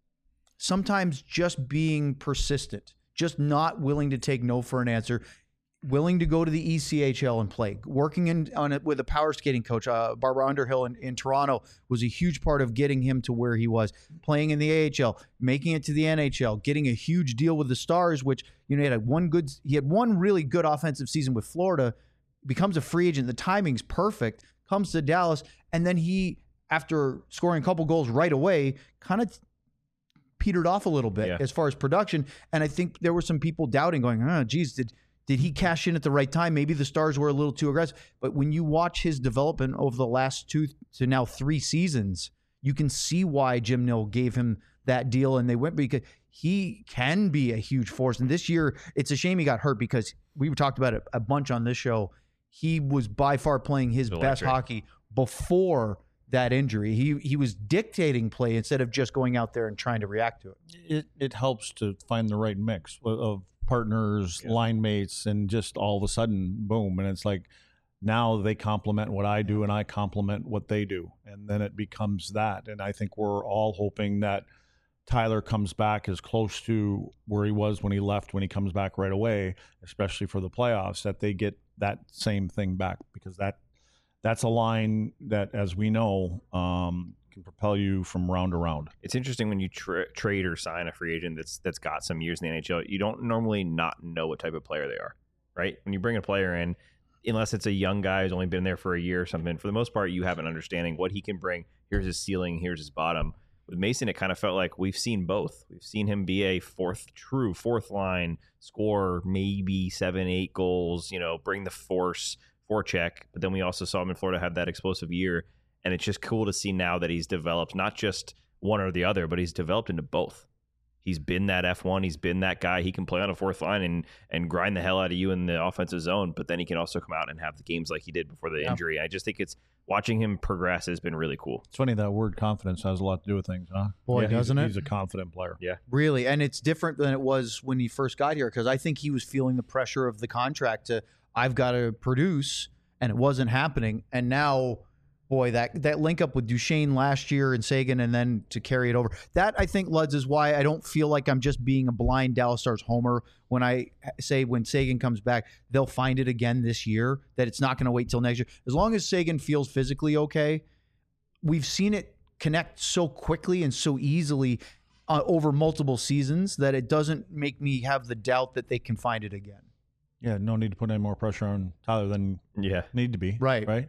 sometimes just being persistent, just not willing to take no for an answer, willing to go to the E C H L and play, working in on it with a power skating coach, uh, Barbara Underhill in, in Toronto was a huge part of getting him to where he was, playing in the A H L, making it to the N H L, getting a huge deal with the Stars, which, you know, he had one good, he had one really good offensive season with Florida, becomes a free agent. The timing's perfect, comes to Dallas. And then he, after scoring a couple goals right away, kind of petered off a little bit Yeah. as far as production. And I think there were some people doubting, going, oh, geez, did, Did he cash in at the right time? Maybe the Stars were a little too aggressive. But when you watch his development over the last two to now three seasons, you can see why Jim Nill gave him that deal. And they went because he can be a huge force. And this year, it's a shame he got hurt because we talked about it a bunch on this show. He was by far playing his Electric. best hockey before that injury. He he was dictating play instead of just going out there and trying to react to it. It it helps to find the right mix of- of partners, Yeah. line mates, and just all of a sudden, boom. And it's like now they complement what I do and I complement what they do. And then it becomes that. And I think we're all hoping that Tyler comes back as close to where he was when he left, when he comes back right away, especially for the playoffs, that they get that same thing back, because that that's a line that, as we know, um, can propel you from round to round. It's interesting when you tra- trade or sign a free agent that's that's got some years in the N H L. You don't normally not know what type of player they are, right? When you bring a player in, unless it's a young guy who's only been there for a year or something, for the most part, you have an understanding what he can bring. Here's his ceiling. Here's his bottom. With Mason, it kind of felt like we've seen both. We've seen him be a fourth, true fourth line, score maybe seven, eight goals, you know, bring the force, forecheck. But then we also saw him in Florida have that explosive year. And it's just cool to see now that he's developed not just one or the other, but he's developed into both. He's been that F one. He's been that guy. He can play on a fourth line and and grind the hell out of you in the offensive zone, but then he can also come out and have the games like he did before the Yeah. injury. I just think it's watching him progress has been really cool. It's funny that word confidence has a lot to do with things, huh? Boy, he's- doesn't it? He's a confident player. Yeah. Really, and it's different than it was when he first got here, because I think he was feeling the pressure of the contract to, I've got to produce, and it wasn't happening. And now, boy, that that link up with Duchesne last year and Sagan, and then to carry it over. That, I think, Luds, is why I don't feel like I'm just being a blind Dallas Stars homer when I say when Sagan comes back, they'll find it again this year, that it's not going to wait till next year. As long as Sagan feels physically okay, we've seen it connect so quickly and so easily uh, over multiple seasons that it doesn't make me have the doubt that they can find it again. Yeah, no need to put any more pressure on Tyler than Yeah. need to be. Right. Right.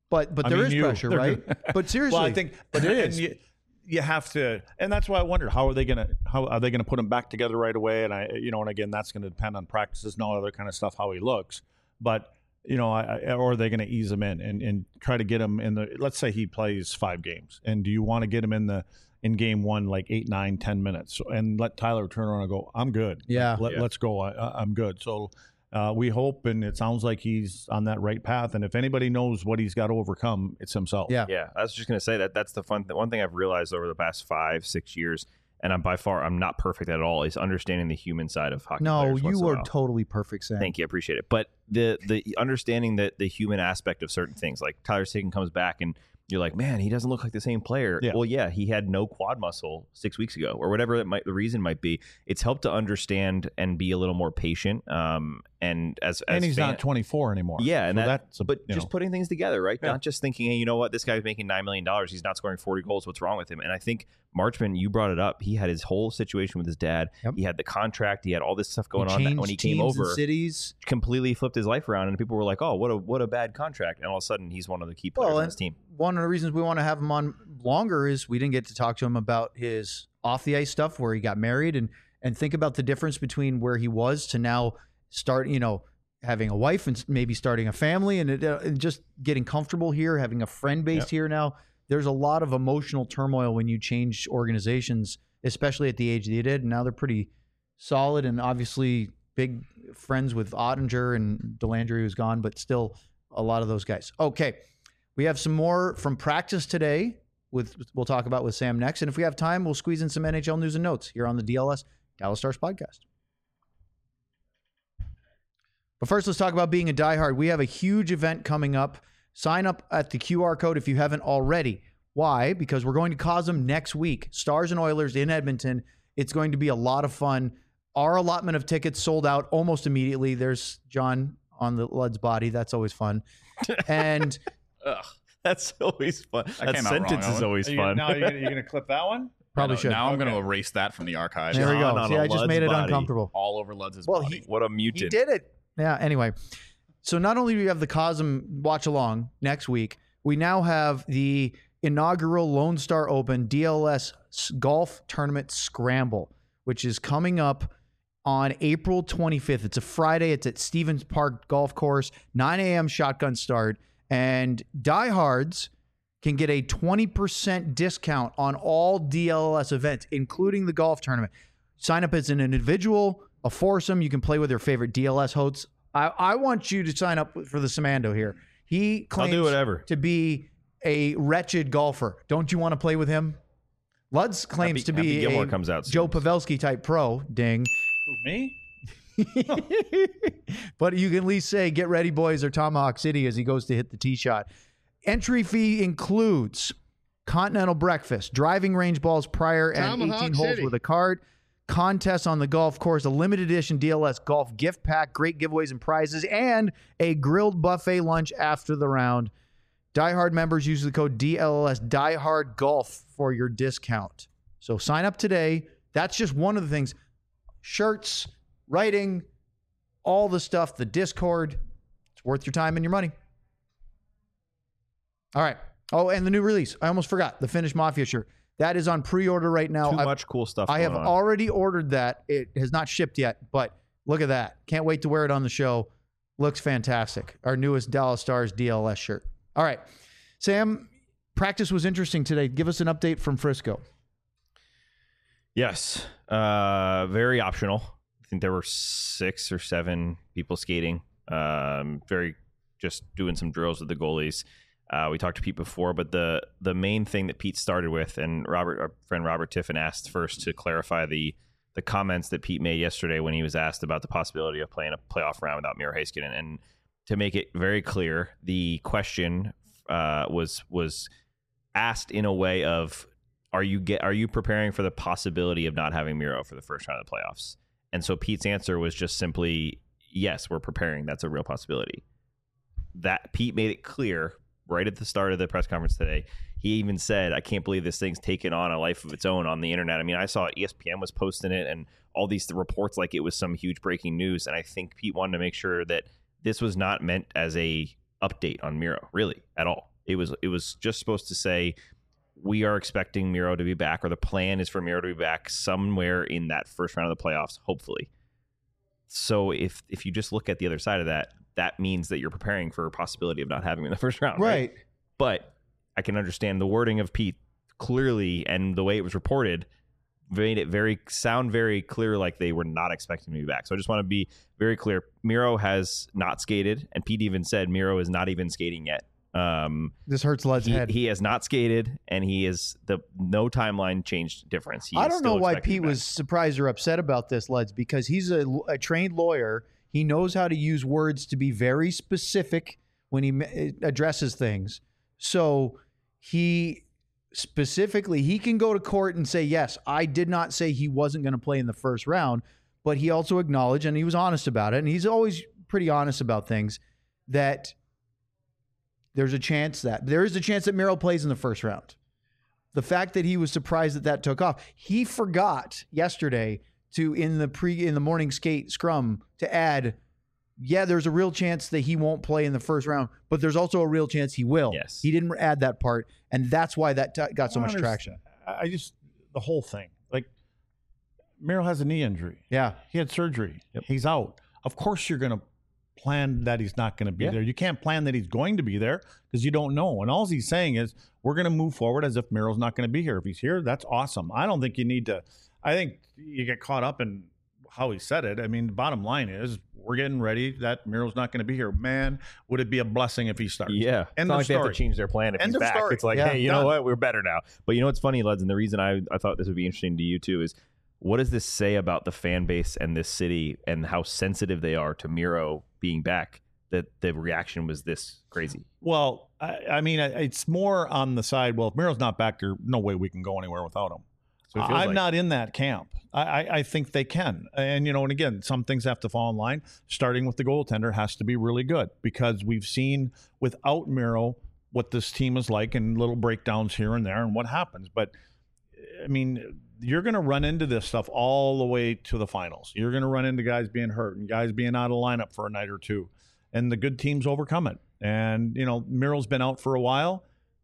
But but I there mean, is you- pressure, they're right? gonna- But seriously, Well, I think, but it and is. You, you have to, and that's why I wondered how are they gonna how are they gonna put him back together right away? And I, you know, and again, that's going to depend on practices and all other kind of stuff, how he looks. But you know, I, I, or are they going to ease him in and, and try to get him in the? Let's say he plays five games, and do you want to get him in the in game one like eight, nine, ten minutes, and let Tyler turn around and go, I'm good. Yeah. Let, Yeah. let's go. I, I'm good. So. Uh, we hope, and it sounds like he's on that right path. And if anybody knows what he's got to overcome, it's himself. Yeah. Yeah, I was just gonna say that that's the fun. The one thing I've realized over the past five, six years, and I'm by far I'm not perfect at all, is understanding the human side of hockey. No, players once you in a are while. totally perfect, Sam. Thank you, I appreciate it. But the the understanding that the human aspect of certain things, like Tyler Seguin comes back and you're like, man, he doesn't look like the same player. Yeah. Well, yeah, he had no quad muscle six weeks ago, or whatever it might the reason might be. It's helped to understand and be a little more patient. Um, and as, as And he's fan- not twenty-four anymore. Yeah, and So that, that's a, but you just know, putting things together, right? Yeah. Not just thinking, hey, you know what, this guy's making nine million dollars. He's not scoring forty goals. What's wrong with him? And I think Marchman, you brought it up. He had his whole situation with his dad. Yep. He had the contract. He had all this stuff going He on. That changed when he came teams and over, cities. completely flipped his life around, and people were like, "Oh, what a what a bad contract!" And all of a sudden, he's one of the key players Well, on and this team. one of the reasons we want to have him on longer is we didn't get to talk to him about his off the ice stuff where he got married and and think about the difference between where he was to now start, you know, having a wife and maybe starting a family and, it, uh, and just getting comfortable here, having a friend base Yep. here now. There's a lot of emotional turmoil when you change organizations, especially at the age that he did. And now they're pretty solid and obviously big friends with Ottinger and Delandry, who's gone, but still a lot of those guys. Okay. We have some more from practice today with we'll talk about with Sam next. And if we have time, we'll squeeze in some N H L news and notes here on the D L S Dallas Stars podcast. But first, let's talk about being a diehard. We have a huge event coming up. Sign up at the Q R code if you haven't already. Why? Because we're going to Cosm next week. Stars and Oilers in Edmonton. It's going to be a lot of fun. Our allotment of tickets sold out almost immediately. There's John on the Lud's body. That's always fun. And Ugh. That's always fun. That That came out wrong, sentence is Owen. always Are you, fun. now you're gonna, you're gonna clip that one. probably I know, should. Now I'm going to Okay. erase that from the archives. There we John go. on See, a I just Lud's made it body. uncomfortable. All over Lud's Well, body. he- What a He mutant! did it. Yeah, anyway. So not only do we have the Cosm watch along next week, we now have the inaugural Lone Star Open D L S Golf Tournament Scramble, which is coming up on April twenty-fifth. It's a Friday. It's at Stevens Park Golf Course, nine a.m. shotgun start. And diehards can get a twenty percent discount on all D L S events, including the golf tournament. Sign up as an individual, a foursome. You can play with your favorite D L S hosts. I, I want you to sign up for the Samando here. He I'll claims do whatever. to be a wretched golfer. Don't you want to play with him? Lutz claims Happy- to be Happy Gilmore a comes out soon. Joe Pavelski type pro. Ding. Who, me? But you can at least say, get ready, boys, or Tomahawk City as he goes to hit the tee shot. Entry fee includes continental breakfast, driving range balls prior, and Tomahawk eighteen holes City. with a cart, contests on the golf course, a limited edition D L S golf gift pack, great giveaways and prizes, and a grilled buffet lunch after the round. Diehard members use the code D L S Diehard Golf for your discount. So sign up today. That's just one of the things. Shirts, writing, all the stuff, the Discord. It's worth your time and your money. All right. Oh, and the new release. I almost forgot. The Finnish Mafia shirt. That is on pre-order right now. Too I've- much cool stuff. I have going on. already ordered that. It has not shipped yet, but look at that. Can't wait to wear it on the show. Looks fantastic. Our newest Dallas Stars D L S shirt. All right. Sam, practice was interesting today. Give us an update from Frisco. Yes. Uh, very optional. I think there were six or seven people skating. Um, very just doing some drills with the goalies. Uh, we talked to Pete before, but the the main thing that Pete started with, and Robert, our friend Robert Tiffin asked first to clarify the the comments that Pete made yesterday when he was asked about the possibility of playing a playoff round without Miro Heiskanen. And to make it very clear, the question uh, was was asked in a way of, Are you get? Are you preparing for the possibility of not having Miro for the first round of the playoffs? And so Pete's answer was just simply, yes, we're preparing. That's a real possibility. That Pete made it clear right at the start of the press conference today. He even said, I can't believe this thing's taken on a life of its own on the internet. I mean, I saw E S P N was posting it and all these reports like it was some huge breaking news. And I think Pete wanted to make sure that this was not meant as a update on Miro, really, at all. It was it was just supposed to say we are expecting Miro to be back, or the plan is for Miro to be back somewhere in that first round of the playoffs, hopefully. So if if you just look at the other side of that, that means that you're preparing for a possibility of not having him in the first round, right? Right. But I can understand the wording of Pete clearly, and the way it was reported made it very sound very clear like they were not expecting him to be back. So I just want to be very clear. Miro has not skated, and Pete even said Miro is not even skating yet. Um, This hurts Lud's he, head. he has not skated, and he is the no timeline changed difference. He I is don't still know why expected to Pete be back. was surprised or upset about this, Luds, because he's a, a trained lawyer. He knows how to use words to be very specific when he ma- addresses things. So he specifically, he can go to court and say, yes, I did not say he wasn't going to play in the first round, but he also acknowledged, and he was honest about it, and he's always pretty honest about things, that there's a chance that there is a chance that Miro plays in the first round. The fact that he was surprised that that took off, he forgot yesterday to in the pre in the morning skate scrum to add, yeah, there's a real chance that he won't play in the first round, but there's also a real chance he will. Yes. He didn't add that part, and that's why that t- got so I much don't traction. understand. I just the whole thing. Like Miro has a knee injury. Yeah, He had surgery. Yep. He's out. Of course, you're going to plan that he's not going to be Yeah. there. You can't plan that he's going to be there because you don't know. And all he's saying is we're going to move forward as if Miro's not going to be here. If he's here, that's awesome. I don't think you need to. I think you get caught up in how he said it. I mean, the bottom line is we're getting ready that Miro's not going to be here. Man, would it be a blessing if he starts? Yeah. It's End not of like they have story. to change their plan if End he's of back. story. It's like, Yeah, hey, you done. know what? We're better now. But you know what's funny, Luds, and the reason I, I thought this would be interesting to you too is what does this say about the fan base and this city and how sensitive they are to Miro being back, that the reaction was this crazy? Well, I, I mean, I- it's more on the side. Well, if Miro's not back there, no way we can go anywhere without him. So it feels I'm like- not in that camp. I, I, I think they can. And, you know, and again, some things have to fall in line. Starting with the goaltender has to be really good because we've seen without Miro what this team is like and little breakdowns here and there and what happens. But, I mean, you're going to run into this stuff all the way to the finals. You're going to run into guys being hurt and guys being out of lineup for a night or two. And the good teams overcome it. And, you know, Miro's been out for a while.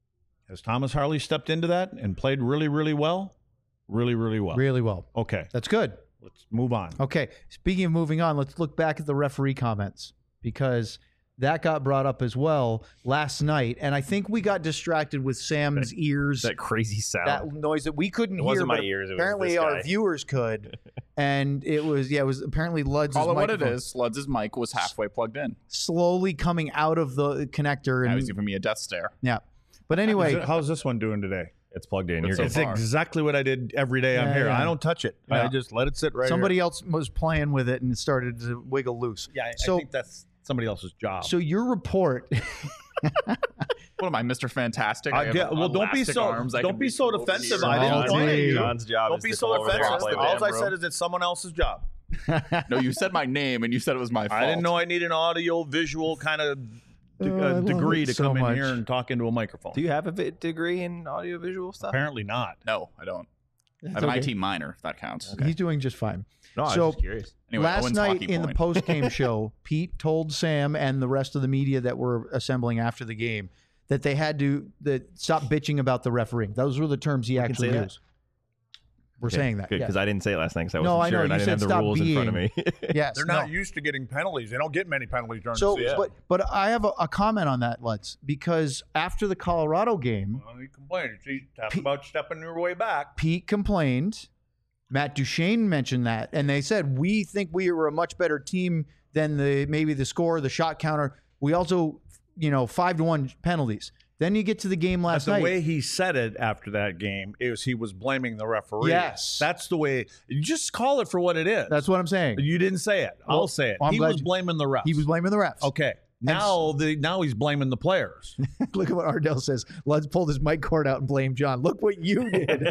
Has Thomas Harley stepped into that and played really, really well? Really, really well. really well. Okay, That's good. let's move on. Okay, speaking of moving on, let's look back at the referee comments because that got brought up as well last night, and I think we got distracted with Sam's ears. That crazy sound. That noise that we couldn't It hear, wasn't my but ears, it was apparently this our guy. viewers could, and it was yeah, it was apparently Lud's Call it what it microphone is. Luds' mic was halfway plugged in. slowly coming out of the connector, Now and he's giving me a death stare. yeah. But Is anyway, it- how's this one doing today? It's plugged in. It's You're so good. It's far. exactly what I did every day I'm Yeah, here. yeah. I don't touch it. Yeah. I just let it sit right somebody here. else was playing with it and started to wiggle loose. Yeah, I, So- I think that's somebody else's job. So your report, What am I, Mister Fantastic? I have get- well, don't be elastic so- arms. I don't can be so over defensive. here. I didn't Oh, point at dude. you. John's job Don't is be to so come over there and offensive. play with All him, I bro. said is it's someone else's job. No, you said my name and you said it was my fault. I didn't know I need an audio visual kind of de- Oh, I uh, love degree it to so come in much. here and talk into a microphone. Do you have a vi- degree in audiovisual stuff? Apparently not. No, I don't. I That's have an okay. I T minor, if that counts. he's doing just fine. No, I was So- just curious. Anyway, Last Owen's night hockey in the point. post game show, Pete told Sam and the rest of the media that were assembling after the game that they had to that stop bitching about the refereeing. Those were the terms he can actually say that? used. We're saying that. Good, yeah. because I didn't say it last night because I No, wasn't I sure know. and I You didn't have said the stop rules in front of me. Yes, They're no. not used to getting penalties. They don't get many penalties during So, the season. but but I have a, a comment on that, Lutz, because after the Colorado game, Well, you complain. She talked Pete- about stepping your way back. Pete complained. Matt Duchene mentioned that, and they said we think we were a much better team than the maybe the score, the shot counter. We also, you know, five to one penalties. Then you get to the game But last the night. way he said it after that game is he was blaming the referee. Yes. That's the way. You just call it for what it is. That's what I'm saying. You didn't say it. Well, I'll say it. well, I'm he glad was you- blaming the refs. He was blaming the refs. Okay. Now the now he's blaming the players. Look at what Ardell says. Lutz pulled his mic cord out and blamed John. Look what you did.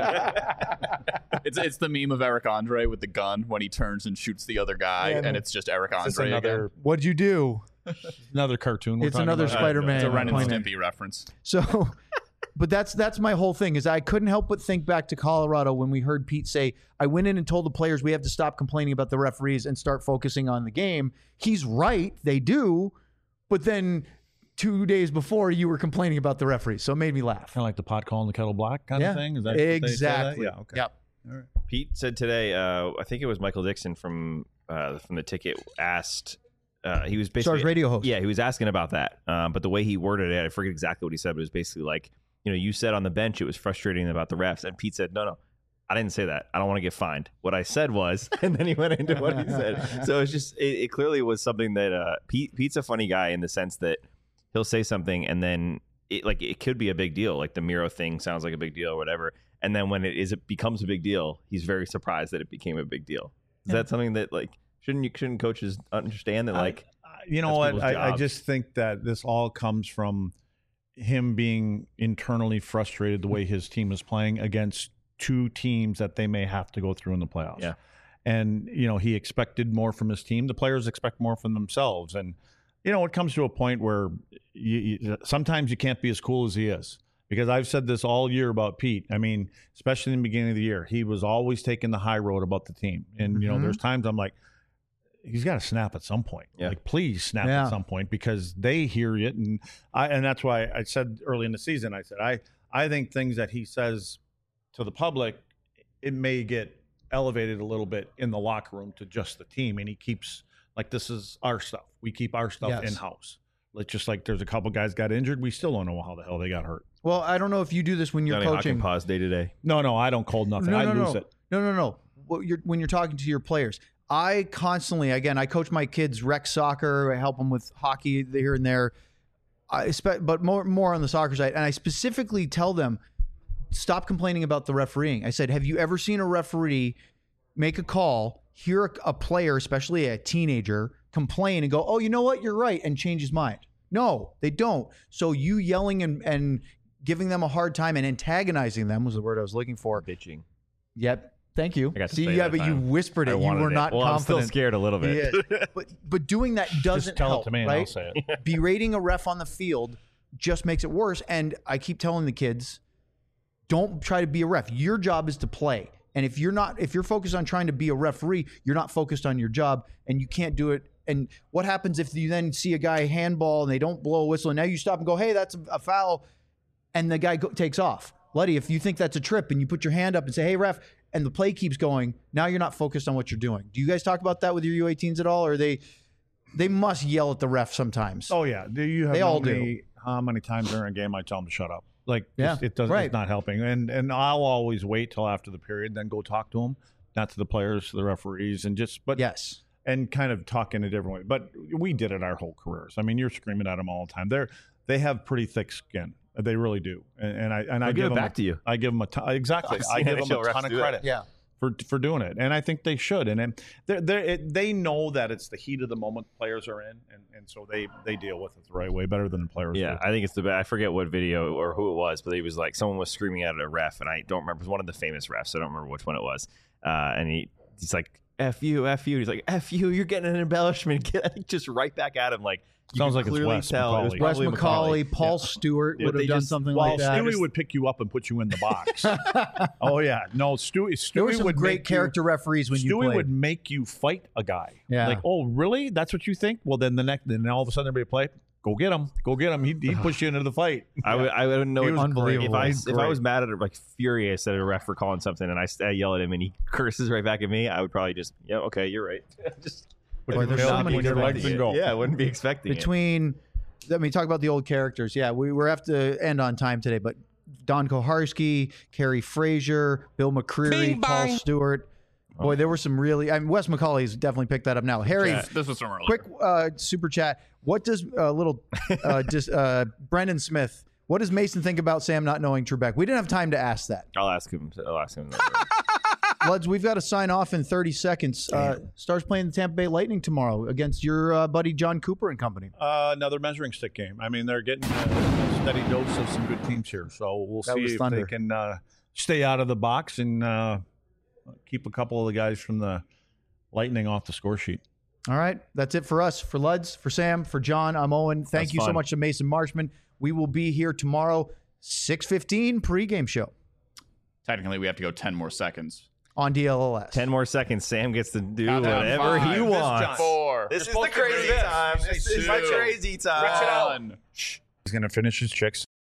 It's it's the meme of Eric Andre with the gun when he turns and shoots the other guy, Yeah, no. and it's just Eric It's Andre another again. What'd you do? another cartoon. We're It's talking another about. Spider-Man. It's a Ren and pointing. Stimpy reference. So, but that's that's my whole thing is I couldn't help but think back to Colorado when we heard Pete say, I went in and told the players we have to stop complaining about the referees and start focusing on the game. He's right. They do. But then two days before you were complaining about the referee. So it made me laugh. Kind of like the pot calling the kettle black kind Yeah. of thing. Is that what they say that? Exactly. Yeah. Okay. Yep. Pete said today, uh, I think it was Michael Dixon from uh, from the ticket asked. Uh, he was basically Stars radio host. Yeah, he was asking about that. Um, but the way he worded it, I forget exactly what he said. But it was basically like, you know, you said on the bench it was frustrating about the refs, and Pete said, no, no, I didn't say that. I don't want to get fined. What I said was, and then he went into what he said. So it's just, it, it clearly was something that uh, Pete Pete's a funny guy in the sense that he'll say something and then it like it could be a big deal, like the Miro thing sounds like a big deal or whatever. And then when it is, it becomes a big deal, he's very surprised that it became a big deal. Is Yeah. that something that like shouldn't you shouldn't coaches understand that like? I, you know That's what? people's I, I jobs. just think that this all comes from him being internally frustrated the way his team is playing against two teams that they may have to go through in the playoffs. Yeah. And, you know, he expected more from his team. The players expect more from themselves. And, you know, it comes to a point where you, you, sometimes you can't be as cool as he is. Because I've said this all year about Pete. I mean, especially in the beginning of the year, he was always taking the high road about the team. And, you know, Mhm. there's times I'm like, he's got to snap at some point. Yeah. Like, please snap Yeah. at some point because they hear it. And I, and that's why I said early in the season, I said, I, I think things that he says to the public, it may get elevated a little bit in the locker room to just the team. And he keeps, like, this is our stuff. We keep our stuff Yes. in-house. Like, just like there's a couple guys got injured. We still don't know how the hell they got hurt. Well, I don't know if you do this when you're Johnny coaching. Hawkins day to day. No, no, I don't call nothing. No, I no, lose no. it. No, no, no. What you're, when you're talking to your players, I constantly, again, I coach my kids rec soccer. I help them with hockey here and there. I spe- but more, more on the soccer side. And I specifically tell them, stop complaining about the refereeing. I said, have you ever seen a referee make a call, hear a, a player, especially a teenager, complain and go, oh, you know what? You're right, and change his mind? No, they don't. So you yelling and, and giving them a hard time and antagonizing them was the word I was looking for. Bitching. Yep. Thank you. I got to See, say yeah, that but you time. whispered it. I You wanted were it. not well, I'm confident. still scared a little bit. Yeah. but but doing that doesn't Just tell help, it to me and right? I'll say it. Berating a ref on the field just makes it worse. And I keep telling the kids, don't try to be a ref. Your job is to play. And if you're not, if you're focused on trying to be a referee, you're not focused on your job, and you can't do it. And what happens if you then see a guy handball and they don't blow a whistle, and now you stop and go, hey, that's a, a foul, and the guy go, takes off. Luddy, if you think that's a trip and you put your hand up and say, hey, ref, and the play keeps going, now you're not focused on what you're doing. Do you guys talk about that with your U eighteens at all? Or they they must yell at the ref sometimes? Oh yeah, do you have They no all do. me how many times during a game I tell them to shut up? Like, Yeah, just- it doesn't. right. It's not helping, and and I'll always wait till after the period, then go talk to them, not to the players, to the referees, and just but Yes. and kind of talk in a different way. But we did it our whole careers. I mean, you're screaming at them all the time. They're they have pretty thick skin. They really do, and, and I and I They'll give give it them back a, to you. I give them a ton, exactly. I've I seen give N H them L a refs ton of do that. credit. Yeah. For, for doing it, and I think they should, and then they're, they're, it, they know that it's the heat of the moment players are in, and, and so they, they deal with it the right way better than the players. Yeah, do. I think it's the best. I forget what video or who it was, but he was like someone was screaming at a ref, and I don't remember. It was one of the famous refs. I don't remember which one it was. Uh, and he he's like, "F you, F you." He's like, "F you, you're getting an embellishment." Get just right back at him. Like you Sounds could like it's clearly Wes tell it was McCauley. Wes probably McCauley, Paul Stewart Yeah, would they have done just- something Well, like that. Stewie would pick you up and put you in the box. oh yeah, no, Stewie. Stewie There were some would great make character You, referees when you Stewie played. would make you fight a guy. Yeah. Like, oh really? That's what you think? Well, then the next, then all of a sudden everybody play. Go get him. Go get him. He'd, he'd push you into the fight. I would, I wouldn't know. He it- was unbelievable. If I He's if I great. was mad at it, like furious at a ref for calling something, and I, I yell at him, and he curses right back at me, I would probably just, yeah, okay, you're right. just Boy, there's Tail so up many with your different legs things. and go. Yeah, I wouldn't be expecting it. Between, I mean, talk about the old characters. Yeah, we, we have to end on time today, but Don Koharski, Kerry Frazier, Bill McCreary, Paul Stewart. Boy, there were some really, I mean, Wes McCauley's definitely picked that up now. Harry, Yeah, this was from earlier. quick uh, super chat. What does uh, little uh, dis, uh, Brendan Smith, what does Mason think about Sam not knowing Trebek? We didn't have time to ask that. I'll ask him. I'll ask him. Luds, we've got to sign off in thirty seconds. Uh, Stars playing the Tampa Bay Lightning tomorrow against your uh, buddy John Cooper and company. Uh, another measuring stick game. I mean, they're getting a, a steady dose of some good teams here. So we'll That see was if thunder. they can uh, stay out of the box and uh, keep a couple of the guys from the Lightning off the score sheet. All right. That's it for us. For Luds, for Sam, for John, I'm Owen. Thank That's you so fun. much to Mason Marshman. We will be here tomorrow, six fifteen pregame show Technically, we have to go ten more seconds. on D L L S. Ten more seconds. Sam gets to do Countdown. whatever Five. he This wants. Four. This is You're the supposed to crazy read. time. This is my Two. crazy time. Stretch it out. Shh. He's going to finish his chicks.